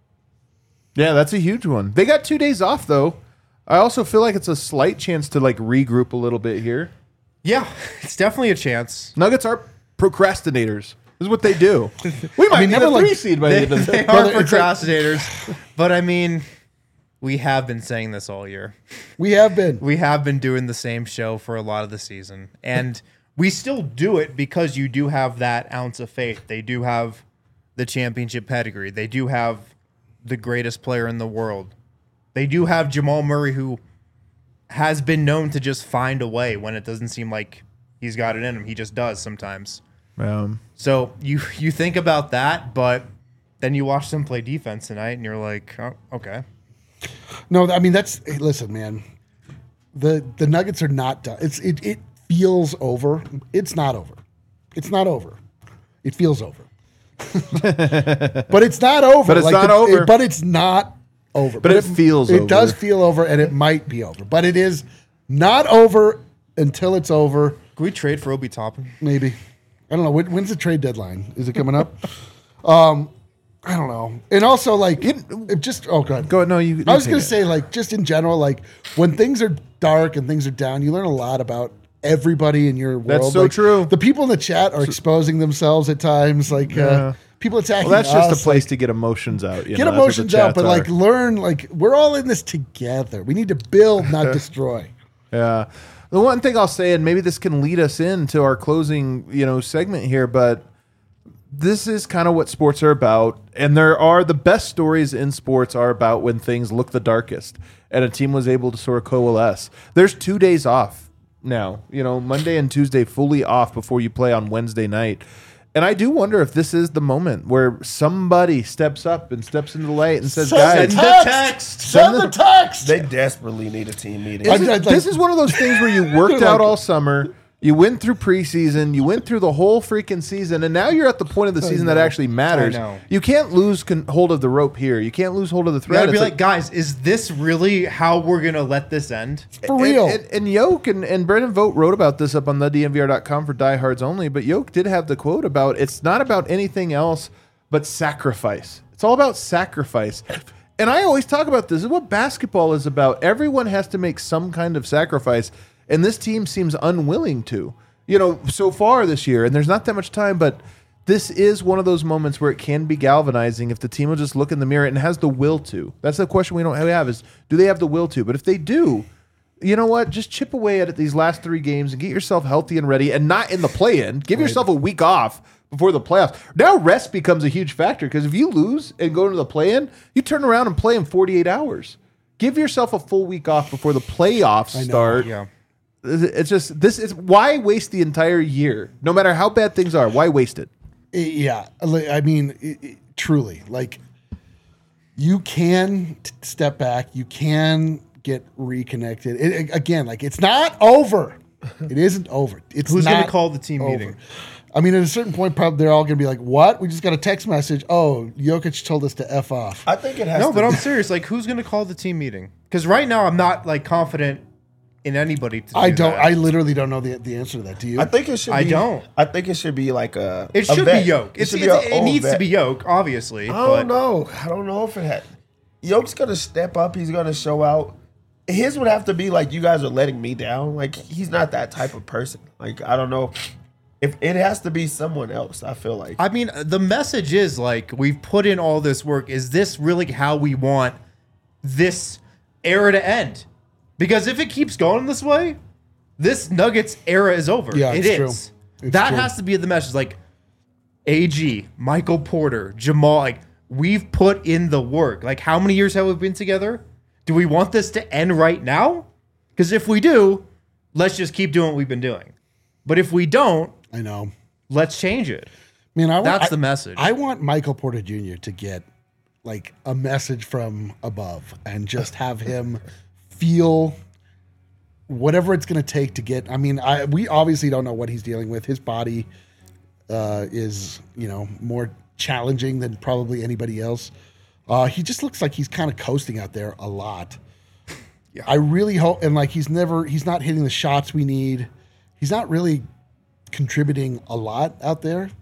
yeah, that's a huge one. They got two days off though. I also feel like it's a slight chance to like regroup a little bit here. Yeah, it's definitely a chance. Nuggets are procrastinators. This is what they do. We might mean, be never a like- three seed by the They, end of they the are it's like- procrastinators. But I mean, we have been saying this all year. We have been. We have been doing the same show for a lot of the season. And we still do it because you do have that ounce of faith. They do have the championship pedigree. They do have the greatest player in the world. They do have Jamal Murray, who has been known to just find a way when it doesn't seem like he's got it in him. He just does sometimes. Um, So you you think about that, but then you watch them play defense tonight, and you're like, oh, okay. No, I mean that's hey, listen, man. The the Nuggets are not done. It's it it feels over. It's not over. It's not over. It feels over. But it's not over. But it's Like, not the- over. it- but it's not over. But it feels It over. does feel over, and it might be over. But it is not over until it's over. Can we trade for Obi Toppin? Maybe. I don't know. When, when's the trade deadline? Is it coming up? um, I don't know. And also, like, it, it just oh god. Go no, you. I was you gonna take it. say, like, just in general, like when things are dark and things are down, you learn a lot about everybody in your world. That's so Like, true. The people in the chat are exposing themselves at times, like Yeah. uh, people attacking. Well, that's just us, a place like, to get emotions out. You get know, that's what the emotions out, chats but like are. learn. Like we're all in this together. We need to build, not destroy. Yeah. The one thing I'll say, and maybe this can lead us into our closing, you know, segment here, but this is kind of what sports are about. And there are the best stories in sports are about when things look the darkest and a team was able to sort of coalesce. There's two days off now, you know, Monday and Tuesday fully off before you play on Wednesday night. And I do wonder if this is the moment where somebody steps up and steps into the light and says, Send guys, the the text. text. Send the text. They desperately need a team meeting. This, I- is, I'd this like- is one of those things where you worked Like- out all summer, you went through preseason, you went through the whole freaking season, and now you're at the point of the season that know. actually matters. I know. You can't lose con- hold of the rope here. You can't lose hold of the You thread. gotta be It's like, guys, is this really how we're gonna let this end? For real. And, and, and Yoke and, and Brendan Vogt wrote about this up on the D N V R dot com for diehards only, but Yoke did have the quote about it's not about anything else but sacrifice. It's all about sacrifice. And I always talk about this. This is what basketball is about. Everyone has to make some kind of sacrifice, and this team seems unwilling to. You know, so far this year, and there's not that much time, but this is one of those moments where it can be galvanizing if the team will just look in the mirror and has the will to. That's the question we don't have is, do they have the will to? But if they do, you know what? Just chip away at it these last three games and get yourself healthy and ready and not in the play-in. Give yourself a week off before the playoffs. Now rest becomes a huge factor because if you lose and go into the play-in, you turn around and play in forty-eight hours. Give yourself a full week off before the playoffs know, start. Yeah. It's just this is why waste the entire year, no matter how bad things are. Why waste it? Yeah, li- I mean, it, it, truly, like you can t- step back, you can get reconnected. It, it- again, like it's not over. It isn't over. It's Who's gonna not call the team over. meeting? I mean, at a certain point, probably they're all going to be like, "What? We just got a text message. Oh, Jokic told us to f off." I think it has No, to but I'm be- serious. Like, who's gonna call the team meeting? Because right now, I'm not like confident in anybody. To I do don't. that. I literally don't know the the answer to that. Do you? I think it should. I be, don't. I think it should be like a. It a should vet. be Yoke. It, It's, should it's- be a it old needs to vet. be Yoke, obviously. I but don't know. I don't know if it had. Yoke's gonna step up. He's gonna show out. His would have to be like, you guys are letting me down. Like he's not that type of person. Like I don't know. If it has to be someone else, I feel like. I mean, the message is like we've put in all this work. Is this really how we want this era to end? Because if it keeps going this way, this Nuggets era is over. Yeah, it it's is. true. It's that true. has to be the message. Like A G, Michael Porter, Jamal. Like we've put in the work. Like how many years have we been together? Do we want this to end right now? Because if we do, let's just keep doing what we've been doing. But if we don't, I know. let's change it. Man, I want, That's I- the message. I want Michael Porter Junior to get like a message from above and just have him feel whatever it's going to take to get. I mean, I we obviously don't know what he's dealing with. His body uh, is, you know, more challenging than probably anybody else. Uh, he just looks like he's kind of coasting out there a lot. Yeah. I really hope, and like he's never, he's not hitting the shots we need. He's not really contributing a lot out there,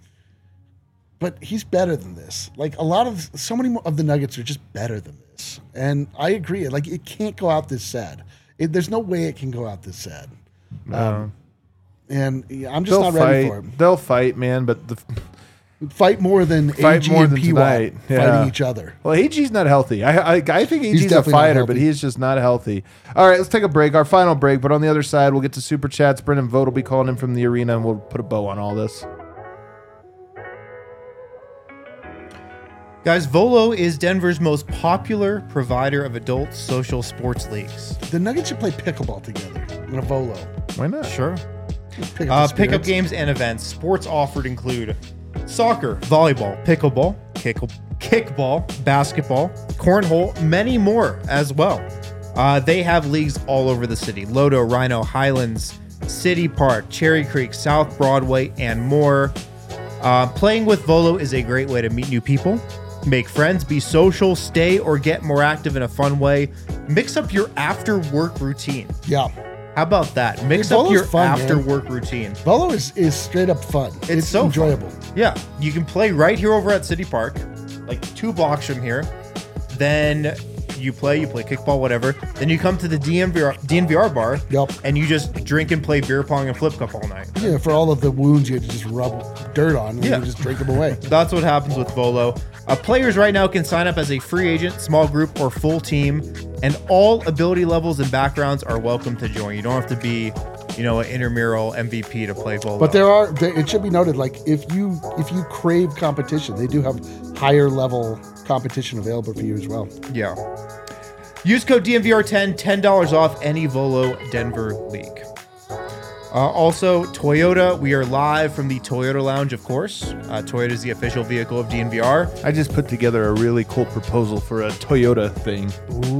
but he's better than this. Like a lot of, so many of the Nuggets are just better than this. And I agree. Like it can't go out this sad. It, there's no way it can go out this sad. Um, and yeah, I'm just They'll not ready fight. for him. They'll fight, man. But the Fight more than Fight A G more and than P Y tonight. Yeah. fighting each other. well, A G's not healthy. I I, I think A G's a definitely not fighter, but healthy. he's just not healthy. All right, let's take a break. Our final break. But on the other side, we'll get to super chats. Brendan Vogt will be calling in from the arena, and we'll put a bow on all this. Guys, Volo is Denver's most popular provider of adult social sports leagues. The Nuggets should play pickleball together in a Volo. Why not? Sure. Pick Uh, the pickup spirits. games and events. Sports offered include soccer, volleyball, pickleball, kick, kickball, basketball, cornhole, many more as well. Uh, they have leagues all over the city. Lodo, Rhino, Highlands, City Park, Cherry Creek, South Broadway, and more. Uh, playing with Volo is a great way to meet new people, make friends, be social, stay or get more active in a fun way. Mix up your after work routine. Yeah. How about that? Mix Dude, up Volo's your fun, after man. work routine. Volo is, is straight up fun. It's, so fun. enjoyable. Yeah, you can play right here over at City Park, like two blocks from here. Then you play, you play kickball, whatever. Then you come to the D M V R, D N V R bar, Yup. and you just drink and play beer pong and flip cup all night. Yeah, for all of the wounds you had to just rub dirt on and Yeah. you just drink them away. That's what happens with Volo. Uh, players right now can sign up as a free agent, small group, or full team, and all ability levels and backgrounds are welcome to join. You don't have to be, you know, an intramural M V P to play Volo. But there are, there, it should be noted, like if you if you crave competition, they do have higher level competition available for you as well. Yeah. Use code D M V R ten, ten dollars off any Volo Denver league. Uh, also, Toyota, we are live from the Toyota Lounge, of course. Uh, Toyota is the official vehicle of D N V R. I just put together a really cool proposal for a Toyota thing.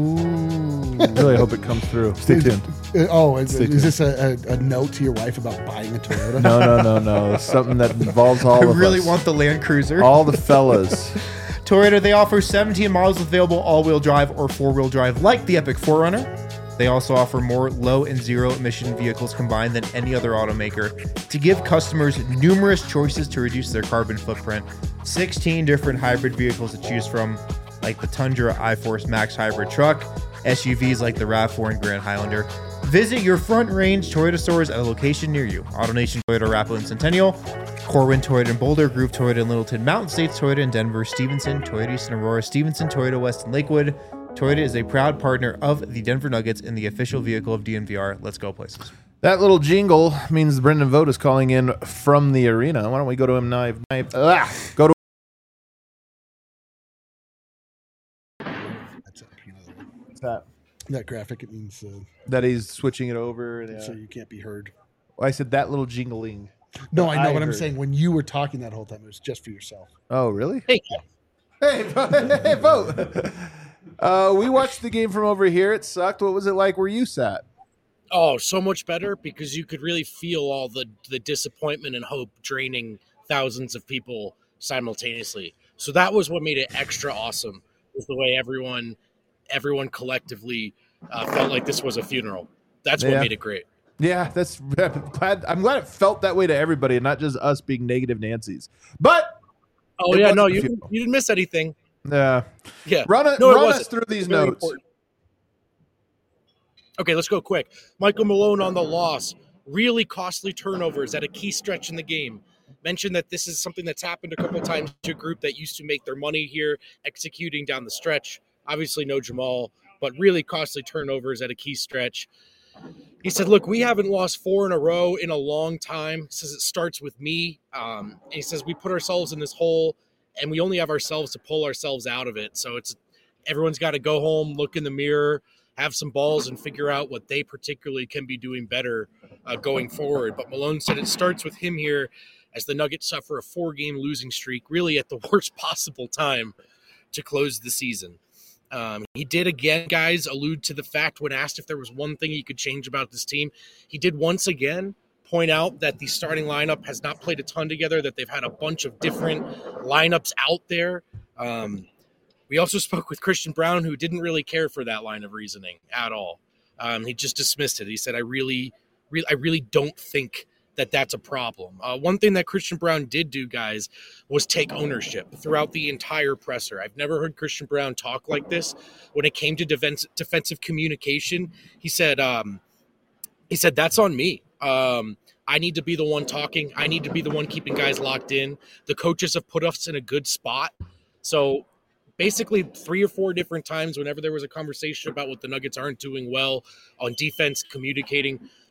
Ooh. I really hope it comes through. Stay tuned. Uh, oh, is, Stay is this a, a, a note to your wife about buying a Toyota? No, no, no, no. Something that involves all I of really us. want the Land Cruiser. all the fellas. Toyota, they offer seventeen models available all-wheel drive or four-wheel drive like the Epic four runner. They also offer more low and zero emission vehicles combined than any other automaker to give customers numerous choices to reduce their carbon footprint. sixteen different hybrid vehicles to choose from, like the Tundra iForce Max hybrid truck, S U Vs like the RAV four and Grand Highlander. Visit your Front Range Toyota stores at a location near you. AutoNation Toyota Arapahoe and Centennial, Corwin Toyota in Boulder, Groove Toyota in Littleton, Mountain States Toyota in Denver, Stevenson, Toyota East in Aurora, Stevenson, Toyota West in Lakewood. Toyota is a proud partner of the Denver Nuggets and the official vehicle of D N V R. Let's go places. That little jingle means Brendan Vogt is calling in from the arena. Why don't we go to him now? Ah, go to That's it. You know, that. that graphic, it means uh, That he's switching it over. Yeah. so you can't be heard. I said that little jingling. No, I know I what I'm heard. saying. When you were talking that whole time, it was just for yourself. Oh, really? Hey, Hey, hey, Vogt. Uh, we watched the game from over here. It sucked. What was it like where you sat? oh, so much better because you could really feel all the the disappointment and hope draining thousands of people simultaneously. So that was what made it extra awesome. Was the way everyone everyone collectively uh, felt like this was a funeral. That's what Yeah. made it great. Yeah, that's I'm glad. I'm glad it felt that way to everybody, and not just us being negative Nancy's. But Oh It yeah, wasn't no, a you funeral. you didn't miss anything. uh, Yeah, run, a, No, it run wasn't. us through these Very notes. important. Okay, let's go quick. Michael Malone on the loss. Really costly turnovers at a key stretch in the game. Mentioned that this is something that's happened a couple times to a group that used to make their money here, executing down the stretch. Obviously, no Jamal, but really costly turnovers at a key stretch. He said, look, we haven't lost four in a row in a long time. He says it starts with me. Um, and he says we put ourselves in this hole, and we only have ourselves to pull ourselves out of it. So it's everyone's got to go home, look in the mirror, have some balls, and figure out what they particularly can be doing better uh, going forward. But Malone said it starts with him here as the Nuggets suffer a four-game losing streak, really at the worst possible time to close the season. Um, he did again, guys, allude to the fact when asked if there was one thing he could change about this team. He did once again point out that the starting lineup has not played a ton together, that they've had a bunch of different lineups out there. Um, we also spoke with Christian Brown, who didn't really care for that line of reasoning at all. Um, he just dismissed it. He said, I really, really, I really don't think that that's a problem. Uh, one thing that Christian Brown did do, guys, was take ownership throughout the entire presser. I've never heard Christian Brown talk like this. When it came to defense, defensive communication, he said, um, he said, that's on me. Um, I need to be the one talking. I need to be the one keeping guys locked in. The coaches have put us in a good spot. So basically three or four different times whenever there was a conversation about what the Nuggets aren't doing well on defense, communicating,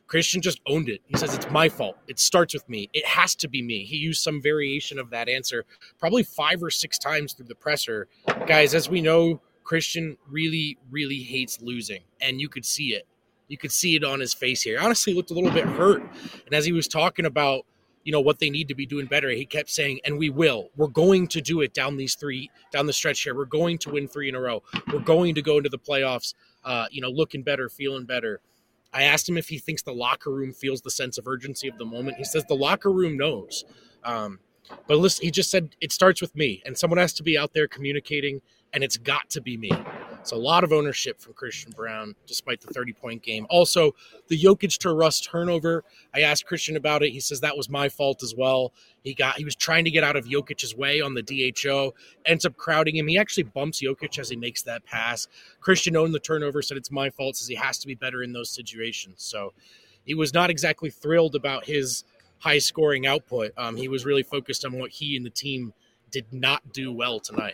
Christian just owned it. He says, it's my fault. It starts with me. It has to be me. He used some variation of that answer probably five or six times through the presser. Guys, as we know, Christian really, really hates losing, and you could see it. You could see it on his face here. Honestly, he looked a little bit hurt. And as he was talking about, you know, what they need to be doing better, he kept saying, and we will. We're going to do it down these three, down the stretch here. We're going to win three in a row. We're going to go into the playoffs, uh, you know, looking better, feeling better. I asked him if he thinks the locker room feels the sense of urgency of the moment. He says the locker room knows. Um, but listen, he just said, it starts with me, and someone has to be out there communicating, and it's got to be me. So a lot of ownership from Christian Braun, despite the thirty-point game. Also, the Jokic to Russ turnover, I asked Christian about it. He says that was my fault as well. He got he was trying to get out of Jokic's way on the D H O, ends up crowding him. He actually bumps Jokic as he makes that pass. Christian owned the turnover, said it's my fault, says he has to be better in those situations. So he was not exactly thrilled about his high-scoring output. Um, he was really focused on what he and the team did not do well tonight.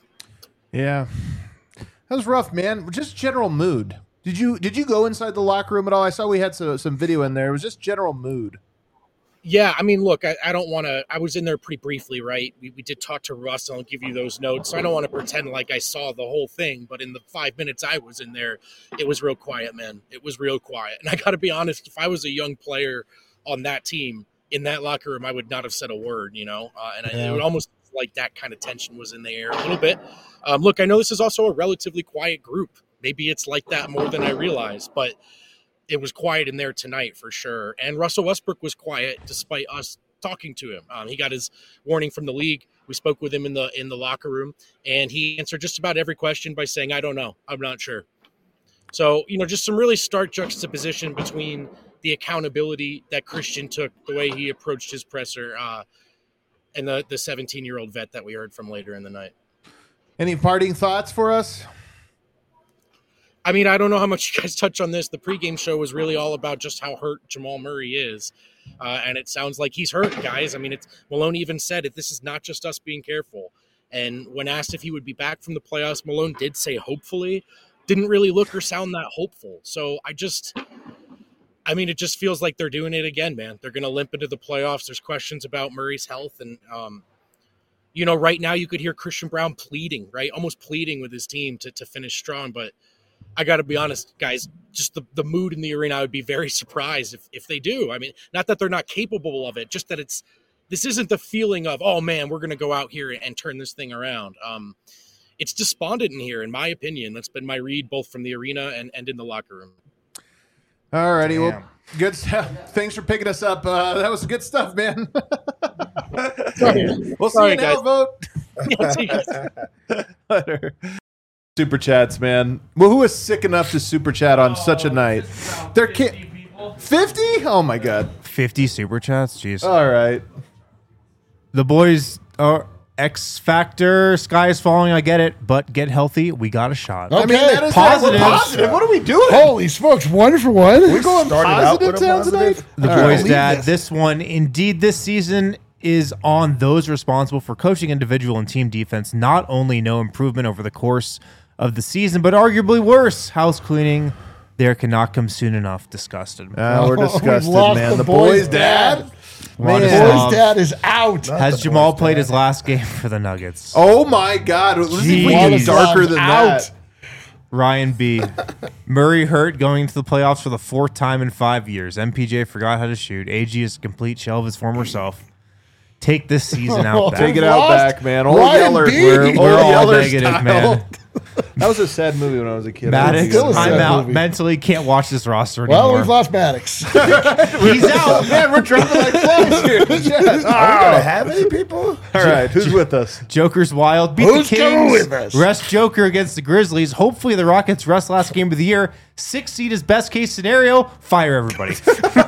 Yeah. That was rough, man. Just general mood. Did you did you go inside the locker room at all? I saw we had some, some video in there. It was just general mood. Yeah, I mean, look, I, I don't want to – I was in there pretty briefly, right? We, we did talk to Russ, and I'll give you those notes. So I don't want to pretend like I saw the whole thing, but in the five minutes I was in there, it was real quiet, man. It was real quiet. And I got to be honest, if I was a young player on that team, in that locker room, I would not have said a word, you know? Uh, and Yeah. I, it would almost like that kind of tension was in the air a little bit. Um, look, I know this is also a relatively quiet group. Maybe it's like that more than I realize, but it was quiet in there tonight for sure. And Russell Westbrook was quiet despite us talking to him. Um, he got his warning from the league. We spoke with him in the in the locker room, and he answered just about every question by saying, I don't know. I'm not sure. So, you know, just some really stark juxtaposition between the accountability that Christian took, the way he approached his presser, uh, and the the seventeen-year-old vet that we heard from later in the night. Any parting thoughts for us? I mean, I don't know how much you guys touch on this. The pregame show was really all about just how hurt Jamal Murray is. Uh, and it sounds like he's hurt, guys. I mean, it's Malone even said it. This is not just us being careful. And when asked if he would be back from the playoffs, Malone did say hopefully. Didn't really look or sound that hopeful. So I just, I mean, it just feels like they're doing it again, man. They're going to limp into the playoffs. There's questions about Murray's health. And, um, you know, right now you could hear Christian Braun pleading, right? Almost pleading with his team to, to finish strong. But I got to be honest, guys, just the, the mood in the arena, I would be very surprised if, if they do. I mean, not that they're not capable of it, just that it's, this isn't the feeling of, oh man, we're going to go out here and, and turn this thing around. Um, it's despondent in here, in my opinion. That's been my read both from the arena and, and in the locker room. All righty. Well, good stuff. Thanks for picking us up. Uh, that was good stuff, man. We'll see Sorry, you now, guys. vote. Yeah, see you guys. Later. Super chats, man. Well, who is sick enough to super chat on such a night? There can't fifty? Oh my god. fifty super chats? Jeez. All right. The boys are X Factor. Sky is falling. I get it. But get healthy. We got a shot. Okay. I mean, that is Positive. We're positive. What are we doing? Holy smokes, one for one. We're going Started out positive with a town positive. tonight. The All boys' right. dad, this. this one, indeed, this season is on those responsible for coaching individual and team defense. Not only no improvement over the course of the season, but arguably worse. House cleaning there cannot come soon enough. Disgusted. Uh, we're Oh, we've disgusted, lost man. the The boys' boys' dad. Wanna Man. stop. Boy's dad is out. Has the Jamal boys' played dad. his last game for the Nuggets? Oh my god. Let's see if we can Jeez. get darker than Out. that. Ryan B. Murray hurt going into the playoffs for the fourth time in five years. M P J forgot how to shoot. A G is a complete shell of his former self. Take this season out back. Take it out Lost back, man. Old Ryan Yeller. B. We're, Old we're all Yeller negative, style. man. That was a sad movie when I was a kid. Maddox, still a sad I'm out. movie. Mentally can't watch this roster Well, anymore. we've lost Maddox. He's out. Man, we're dropping like flies here. Are we gonna have any people? All right, who's with us? Joker's wild. Beat Who's the coming Kings. with us? Rest Joker against the Grizzlies. Hopefully the Rockets rest last game of the year. Six seed is best case scenario. Fire everybody.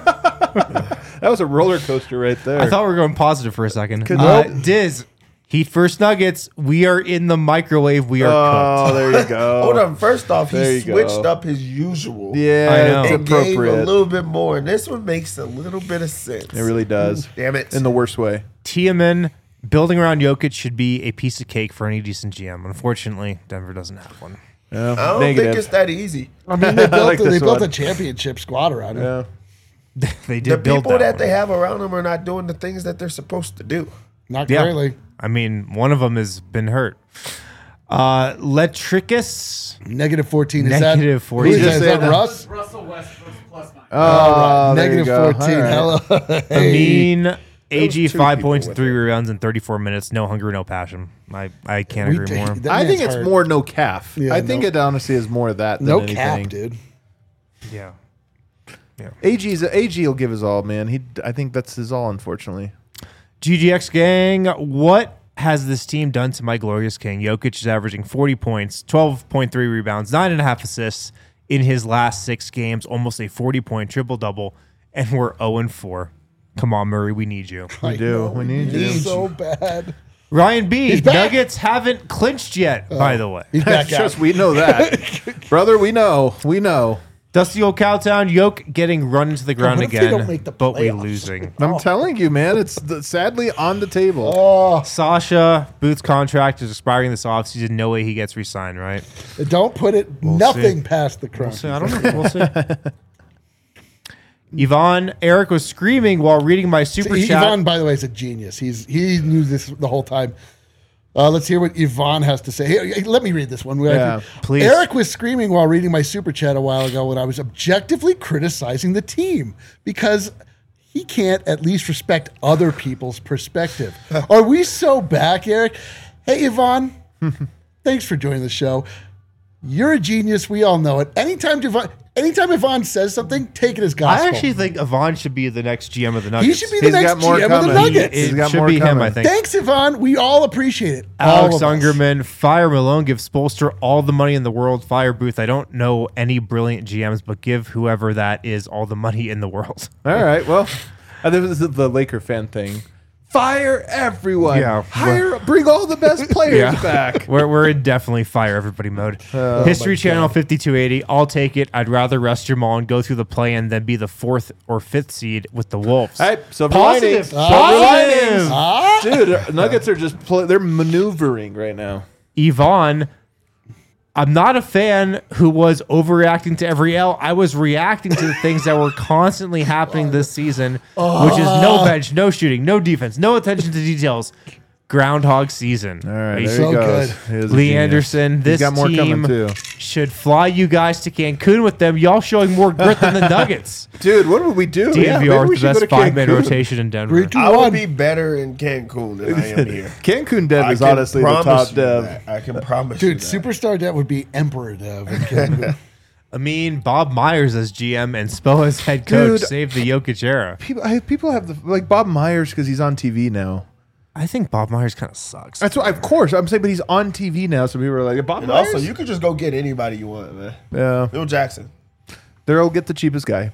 That was a roller coaster right there. I thought we were going positive for a second. Could- Uh, Nope. Diz, Heat first Nuggets. We are in the microwave. We are oh, cooked. there you go. Hold on. First off, There he you switched go. up his usual. Yeah, I know. it's It gave a appropriate. little bit more, and this one makes a little bit of sense. It really does. Damn it. In the worst way. Tiamin, building around Jokic should be a piece of cake for any decent G M. Unfortunately, Denver doesn't have one. Yeah, I don't negative. think it's that easy. I mean, they built, like they this built one. a championship squad around him. Yeah. they The did build people that, one. they have around them are not doing the things that they're supposed to do. Not Yeah. greatly. I mean, one of them has been hurt. Uh, Letricus, Negative fourteen. Is Negative that, fourteen. Who is that? Is Just that say Russ? Russell Westbrook's plus minus. Oh, there you Negative go. fourteen. All right. Hello. Hey. Amin, A G, two five people points and with three it. rebounds in thirty-four minutes. No hunger, no passion. I, I can't We agree did- more. that I think man's it's hurt. more no calf. Yeah, I think no- it honestly is more of that than No anything. cap, dude. Yeah. A G's A G will give his all, man. He, I think that's his all, unfortunately. G G X gang, what has this team done to my glorious king? Jokic is averaging forty points, twelve point three rebounds, nine and a half assists in his last six games, almost a forty-point triple-double, and we're oh and four. Come on, Murray, we need you. I We do. know, We need need you. so bad. Ryan B, He's back. Nuggets haven't clinched yet, by the way. He's back out. Just we know that, brother. We know. We know. Dusty old Cowtown, Yoke getting run into the ground what if they again, don't make the but we playoffs? losing. I'm telling you, man. It's the, sadly on the table. Oh, Sasha, Booth's contract is expiring this offseason. No way he gets re-signed, right? don't put it nothing past the crunch. So I don't know. We'll see. Yvonne, Eric was screaming while reading my super He- chat. Yvonne, by the way, is a genius. He's he knew this the whole time. Uh, let's hear what Yvonne has to say. Here, let me read this one. Yeah, please. Eric was screaming while reading my super chat a while ago when I was objectively criticizing the team because he can't at least respect other people's perspective. Are we so back, Eric? Hey, Yvonne, thanks for joining the show. You're a genius. We all know it. Anytime Yvonne, anytime Yvonne says something, take it as gospel. I actually think Yvonne should be the next G M of the Nuggets. he should be the He's next got more G M of the coming. Nuggets. He's It got should more be him, coming. I think. Thanks, Yvonne. We all appreciate it. All Alex of us. Ungerman, Fire Malone gives Spolster all the money in the world. Fire Booth, I don't know any brilliant G Ms, but give whoever that is all the money in the world. All right. Well, I think this is the Laker fan thing. Fire everyone. Yeah. Hire. Bring all the best players Yeah. back. We're, we're in definitely fire everybody mode. History Channel fifty-two eighty. I'll take it. I'd rather rest Jamal and go through the play-in than be the fourth or fifth seed with the Wolves. All right. Silver Positive. linings. Positive. Ah, Dude, Nuggets are just play, they're maneuvering right now. Yvonne, I'm not a fan who was overreacting to every L. I was reacting to the things that were constantly happening this season, which is no bench, no shooting, no defense, no attention to details. Groundhog season. All right. Hey, There so he goes. good. He is a Lee genius. Anderson, He's this got more team coming too. should fly you guys to Cancun with them. Y'all showing more grit than the Nuggets. Dude, what would we do? Yeah, D N V maybe R we with the should go best to five-man Cancun. rotation in Denver. Three, two, I would one. be better in Cancun than I am here. Cancun Dev I is can honestly the promise top you dev. that. I can promise you Dude, that. Superstar Dev would be Emperor Dev. in Cancun. I mean, Bob Myers as G M and Spo as head coach Dude. saved the Jokic era. People, I, people have the like Bob Myers because he's on T V now. I think Bob Myers kind of sucks. That's what, of course, I'm saying, but he's on T V now, so people are like, Bob And Myers. also, you could just go get anybody you want, man. yeah, Bill Jackson. they'll get the cheapest guy.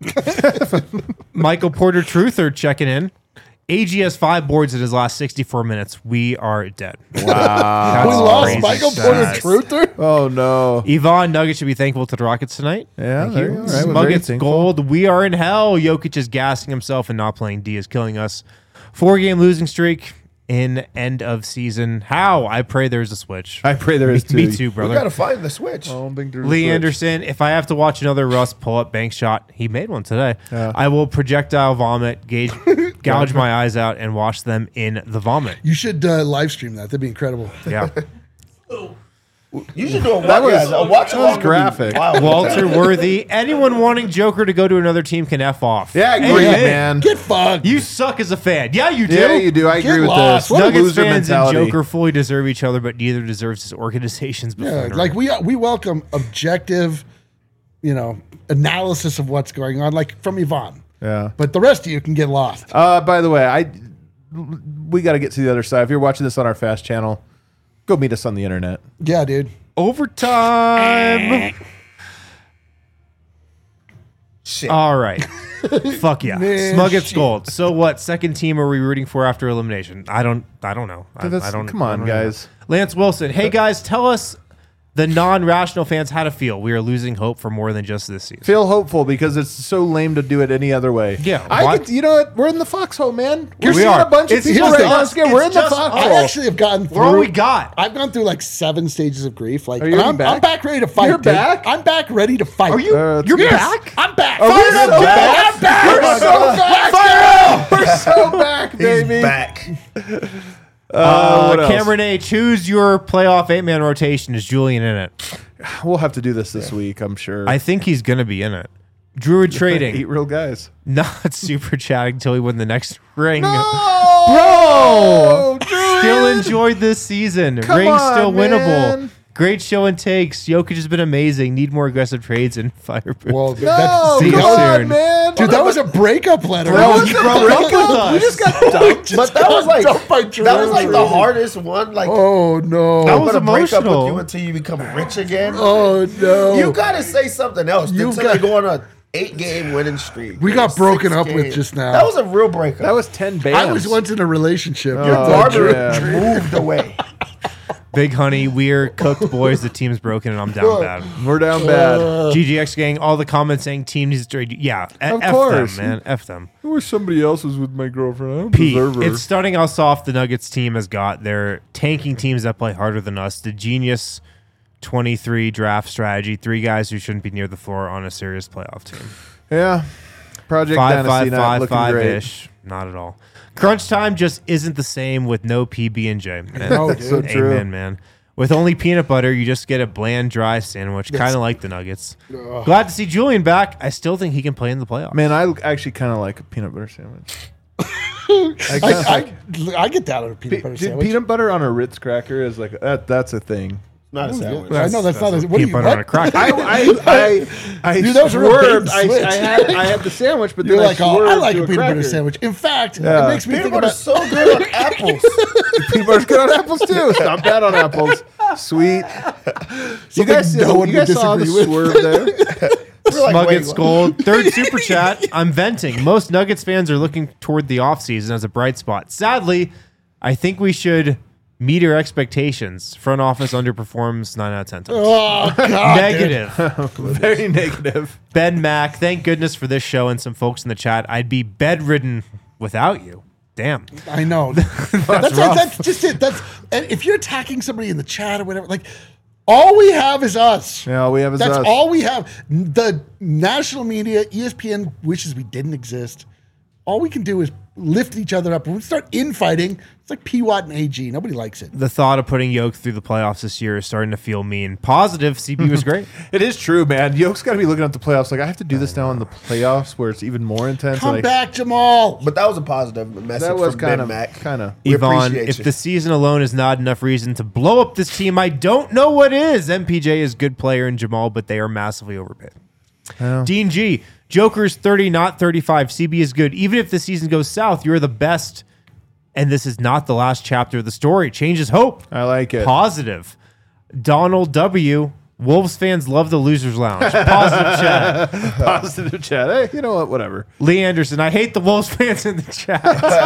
Michael Porter Truther checking in. A G has five boards in his last sixty-four minutes. We are dead. Wow. we That's lost crazy Michael stats. Porter Truther. Oh no. Yvonne Nuggets should be thankful to the Rockets tonight. Yeah, Thank there you. you go. All right, we're very Nuggets thankful. gold. We are in hell. Jokic is gassing himself and not playing D is killing us. Four game losing streak in end of season. How? I pray there's a switch. I pray there is too. Me too, We brother. got to find the switch. I don't think there's a Lee switch. Anderson, if I have to watch another Russ pull up bank shot, he made one today. Yeah. I will projectile vomit, gauge, gouge my eyes out, and wash them in the vomit. You should uh, live stream that. That'd be incredible. Yeah. You should do a That watch. was- yeah, a watch that was along would be graphic. wild. Walter Worthy, anyone wanting Joker to go to another team can F off. Yeah, I agree, Amen. man. Get fucked. You suck as a fan. Yeah, you do. Yeah, you do. I Get agree with lost. this. What a Nuggets loser fans mentality. and Joker fully deserve each other, but neither deserves his organization's Yeah, buffoonery. like we we welcome objective, you know, analysis of what's going on, like from Yvonne. Yeah. But the rest of you can get lost. Uh, by the way, I we got to get to the other side. If you're watching this on our Fast channel, go meet us on the internet. Yeah, dude. overtime. Shit. All right. Fuck yeah. Man, Smug gets shit. gold. So what second team are we rooting for after elimination? I don't I don't know. I, That's- I don't come on, I don't know. guys. Lance Wilson. Hey guys, tell us the non-rational fans how to feel. We are losing hope for more than just this season. Feel hopeful because it's so lame to do it any other way. Yeah, I why- could, you know what? We're in the foxhole, man. We're We seeing are. a bunch It's of people just right us. now. We're in It's the just foxhole. us. I actually have gotten through. We're all we got. I've gone through like seven stages of grief. Like, Are you and even I'm, back? I'm back ready to fight. You're dude. back? I'm back ready to fight. Are you? Uh, you're Yes, back? I'm back. Are we Fired so up, back? I'm back. We're so back. Let's go. We're so back, He's baby. back. Uh, what Uh, else? Cameron A, choose your playoff eight-man rotation. Is Julian in it? We'll have to do this this week, I'm sure. I think he's going to be in it. Druid Eight trading. real guys. Not super chatting until we win the next ring. Bro! Still enjoyed this season. Come Ring on, still winnable. man. Great show and takes. Jokic has been amazing. Need more aggressive trades and fire. Well, No, that's, See you come on, soon. man. dude, that was a breakup letter. Bro, That you was- broke up with us. We just got dumped. But that was like dumped by that was like the Drew. hardest one. Like Oh no! That I'm was gonna break up with emotional. you until you become rich again. oh no! You gotta say something else You until got- they go on a eight game winning streak. We got Six broken up with games. just now. That was a real breakup. That was ten bands. I was once in a relationship. your You're barber yeah. moved away. Big honey, we're cooked boys. The team's broken and I'm down bad. We're down bad. G G X gang, all the comments saying team needs to trade. Yeah, F, Of F course. them, man. F them. I wish somebody else was with my girlfriend. I don't Pete, deserve her. it's starting how soft the Nuggets team has got. They're tanking teams that play harder than us. The genius twenty-three draft strategy. Three guys who shouldn't be near the floor on a serious playoff team. yeah. Project Five, Dynasty five, not five, looking five great. ish. Not at all. Crunch time just isn't the same with no P B and J. Man. No, That's so dude. true. Amen, man. With only peanut butter, you just get a bland, dry sandwich, kind of like the Nuggets. Glad to see Julian back. I still think he can play in the playoffs. Man, I actually kind of like a peanut butter sandwich. I kinda I, like- I, I get down on a peanut Pe- butter dude, sandwich. peanut butter on a Ritz cracker is like that. That's a thing. Not a sandwich. I know that's, not. A, what do peanut you? butter What? on a cracker. I I I, I Dude, that was a real swerved. big I, switch. I had I had the sandwich, but You're then like, I oh, swerved I like to a peanut butter cracker. sandwich. In fact, Yeah. it makes me Peanut think butter's about. so good on apples. Peanut butter's good on apples too. Not bad on apples. Sweet. You Something guys, no one you guys would saw the disagree with. swerve there. We're like, Nuggets wait, gold. Third super chat. I'm venting. Most Nuggets fans are looking toward the offseason as a bright spot. Sadly, I think we should meet our expectations. Front office underperforms nine out of ten times. Oh God, Negative. Very negative. Ben Mack, thank goodness for this show and some folks in the chat. I'd be bedridden without you. Damn. dude. I know. that's that's, that's just it. That's and if you're attacking somebody in the chat or whatever, like all we have is us. Yeah, all we have is That's us. all we have. The national media, E S P N wishes we didn't exist. All we can do is lift each other up. When we start infighting, it's like P. Watt and A G. Nobody likes it. The thought of putting Yoke through the playoffs this year is starting to feel mean. Positive, C B was great. It is true, man. Yoke's got to be looking at the playoffs. Like I have to do this now in the playoffs, where it's even more intense. Come like, back, Jamal. But that was a positive message That was from kind Ben of Mack. kind of. We Yvonne, appreciate if you. the season alone is not enough reason to blow up this team, I don't know what is. M P J is a good player in Jamal, but they are massively overpaid. Dean G, Joker's thirty, not thirty-five. C B is good. Even if the season goes south, you're the best. And this is not the last chapter of the story. Change is hope. I like it. Positive. Donald W, Wolves fans love the Losers Lounge. Positive chat. Positive chat. Hey, you know what? Whatever. Lee Anderson, I hate the Wolves fans in the chat.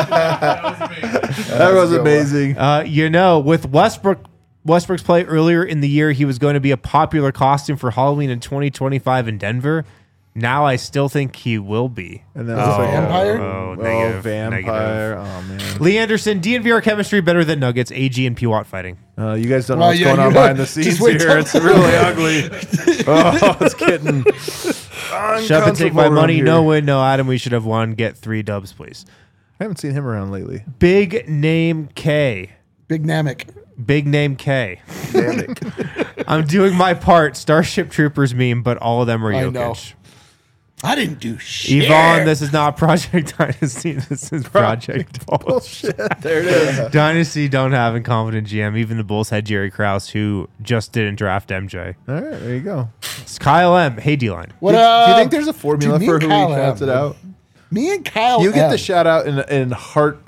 That was a good one. amazing. Uh, you know, with Westbrook Westbrook's play earlier in the year, he was going to be a popular costume for Halloween in twenty twenty-five in Denver. Now I still think he will be. And then Is it's it like, vampire? Oh, Oh, negative, vampire. Oh man. Lee Anderson, D N V R chemistry better than Nuggets, A G and P Watt fighting. Uh, you guys don't know Well, what's yeah, going you on know, behind the just scenes wait here. till- It's really ugly. Oh, it's getting. Shove and take my uncomfortable money. around No here. win, no Adam. We should have won. Get three dubs, please. I haven't seen him around lately. Big name K. Big Namek. Big name K. I'm doing my part. Starship Troopers meme, but all of them are I Jokic. know. I didn't do shit. Yvonne, this is not Project Dynasty. This is Project Bulls. Bullshit. There it is. Dynasty don't have incompetent G M. Even the Bulls had Jerry Krause, who just didn't draft M J. All right, there you go. It's Kyle M. Hey, D-line. What do, up? do you think there's a formula Dude, me for and who Kyle he shouts have, it man. out? Me and Kyle. You get M. the shout out in in heart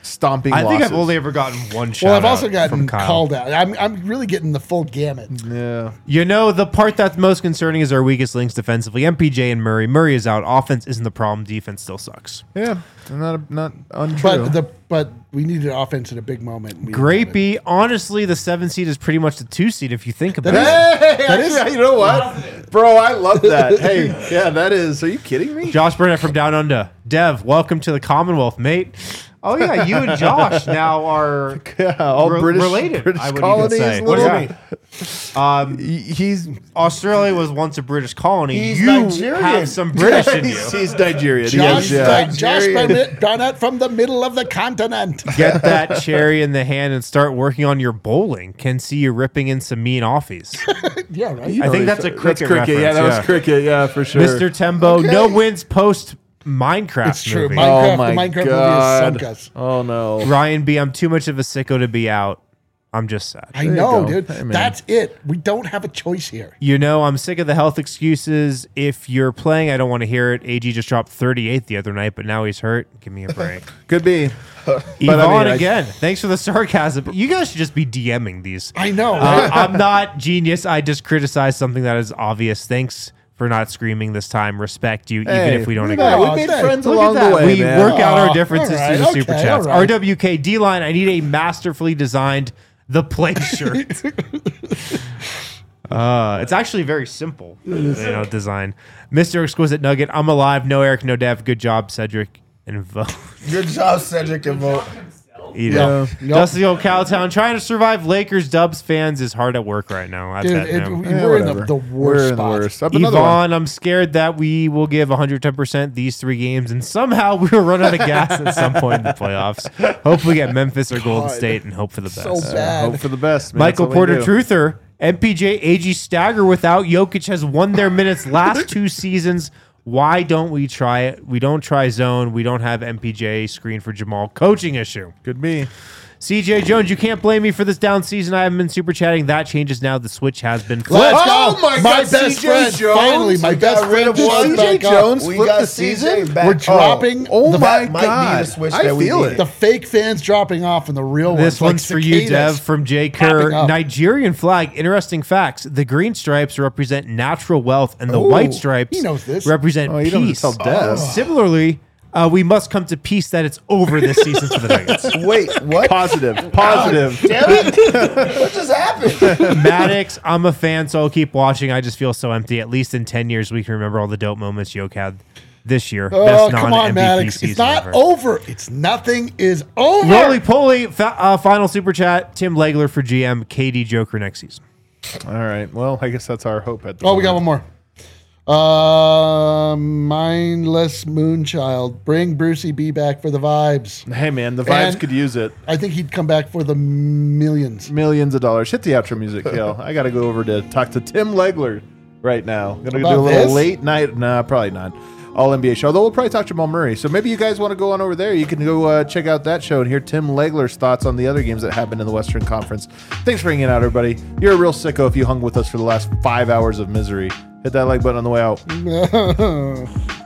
stomping I think losses. I've only ever gotten one shot. Well, I've also gotten from Kyle. called out. I'm, I'm really getting the full gamut. Yeah. You know, the part that's most concerning is our weakest links defensively. M P J and Murray. Murray is out. Offense isn't the problem. Defense still sucks. Yeah. Not not untrue. But the but we needed offense in a big moment. and we didn't have it. Grapey, honestly, the seven seed is pretty much the two seed if you think about That it. Hey, actually, you know what? Bro, I love that. Hey, yeah, that is. Are you kidding me? Josh Burnett from Down Under. Dev, welcome to the Commonwealth, mate. Oh yeah, you and Josh now are Yeah, all re- British, related. British I would colonies. even say. What do you little- mean? Um, He- He's Australia was once a British colony. He's you Nigerian. have some British in you. he's, he's Nigerian. Josh, Yes, yeah. Josh Burnett, Burnett from the middle of the continent. Get that cherry in the hand and start working on your bowling. Can see you ripping in some mean offies. Yeah, right. I think that's a That's cricket. cricket. Yeah, reference, that was cricket. Yeah, for sure. Mister Tembo, Okay. no wins post Minecraft It's true. movie. My- Oh Minecraft- my the Minecraft movie has god. sunk us. Oh no. Ryan B, I'm too much of a sicko to be out. I'm just sad. I you know, go. dude. Hey, man. That's it. We don't have a choice here. You know, I'm sick of the health excuses. If you're playing, I don't want to hear it. A G just dropped thirty-eight the other night, but now he's hurt. Give me a break. Could be. Yvonne, But I mean, I- again, thanks for the sarcasm. You guys should just be DMing these. I know. Uh, Right? I'm not genius. I just criticize something that is obvious. Thanks for not screaming this time. Respect you, even Hey, if we don't look agree. at that. Oh, We made thank- friends Look along at that. the way, we man. work out our Aw, differences all right, through the super okay, chats. all right. R W K D line. I need a masterfully designed the play shirt. uh, it's actually very simple, you know, design. Mister Exquisite Nugget. I'm alive. No Eric, no Dev. Good job, Cedric and Vote. Good job, Cedric and Vote. Eat Yeah. it. Yep. Dusty old Cowtown trying to survive Lakers Dubs fans is hard at work right now. I Dude, bet it, now. we- Yeah, we're in the, whatever. the We're worst in the spot. worst. Up another one. Yvonne, I'm scared that we will give one hundred ten percent these three games, and somehow we will run out of gas at some point in the playoffs. Hope we get Memphis or Golden God. State, and hope for the best. So bad. Hope for the best. Man. Michael That's all we Porter do. Truther, M P J, A G stagger without Jokic has won their minutes last two seasons. Why don't we try it? We don't try zone. We don't have M P J screen for Jamal. Coaching issue. Could be. C J Jones, you can't blame me for this down season. I haven't been super chatting. That changes now. The switch has been flipped. Let's Oh go. my God, best C J friend. Jones. Finally, my We best got rid friend of just one. showed C J back up. Jones We flipped got the C J season. back. We're dropping Oh the, my That might be god. the switch I that we feel needed. it. the fake fans dropping off and the real This ones. like one's for you, cicadas. Dev, from Jay popping Kerr. up. Nigerian flag. Interesting facts. The green stripes represent natural wealth, and the Ooh, white stripes he knows this. represent Oh, you don't peace. tell Dev. Similarly, uh, we must come to peace that it's over this season for the Nuggets. Wait, what? Positive. Positive. Damn it. What just happened? Maddox, I'm a fan, so I'll keep watching. I just feel so empty. At least in ten years, we can remember all the dope moments Yoke had this year. Oh, Best come on, non-M V P Maddox. season It's not ever. over. It's nothing is over. Roly poly. Fa- uh, final super chat. Tim Legler for G M. K D Joker next season. All right. Well, I guess that's our hope at the Oh, we got one moment. more. Uh, mindless Moonchild. Bring Brucey B back for the vibes. Hey, man, the vibes And- could use it. I think he'd come back for the millions. Millions of dollars. Hit the outro music, Kale. I got to go over to talk to Tim Legler right now. Gonna About do a little this? late night. Nah, probably not. All N B A show. Although we'll probably talk Jamal Murray. So maybe you guys want to go on over there. You can go uh, check out that show and hear Tim Legler's thoughts on the other games that happened in the Western Conference. Thanks for hanging out, everybody. You're a real sicko if you hung with us for the last five hours of misery. Hit that like button on the way out.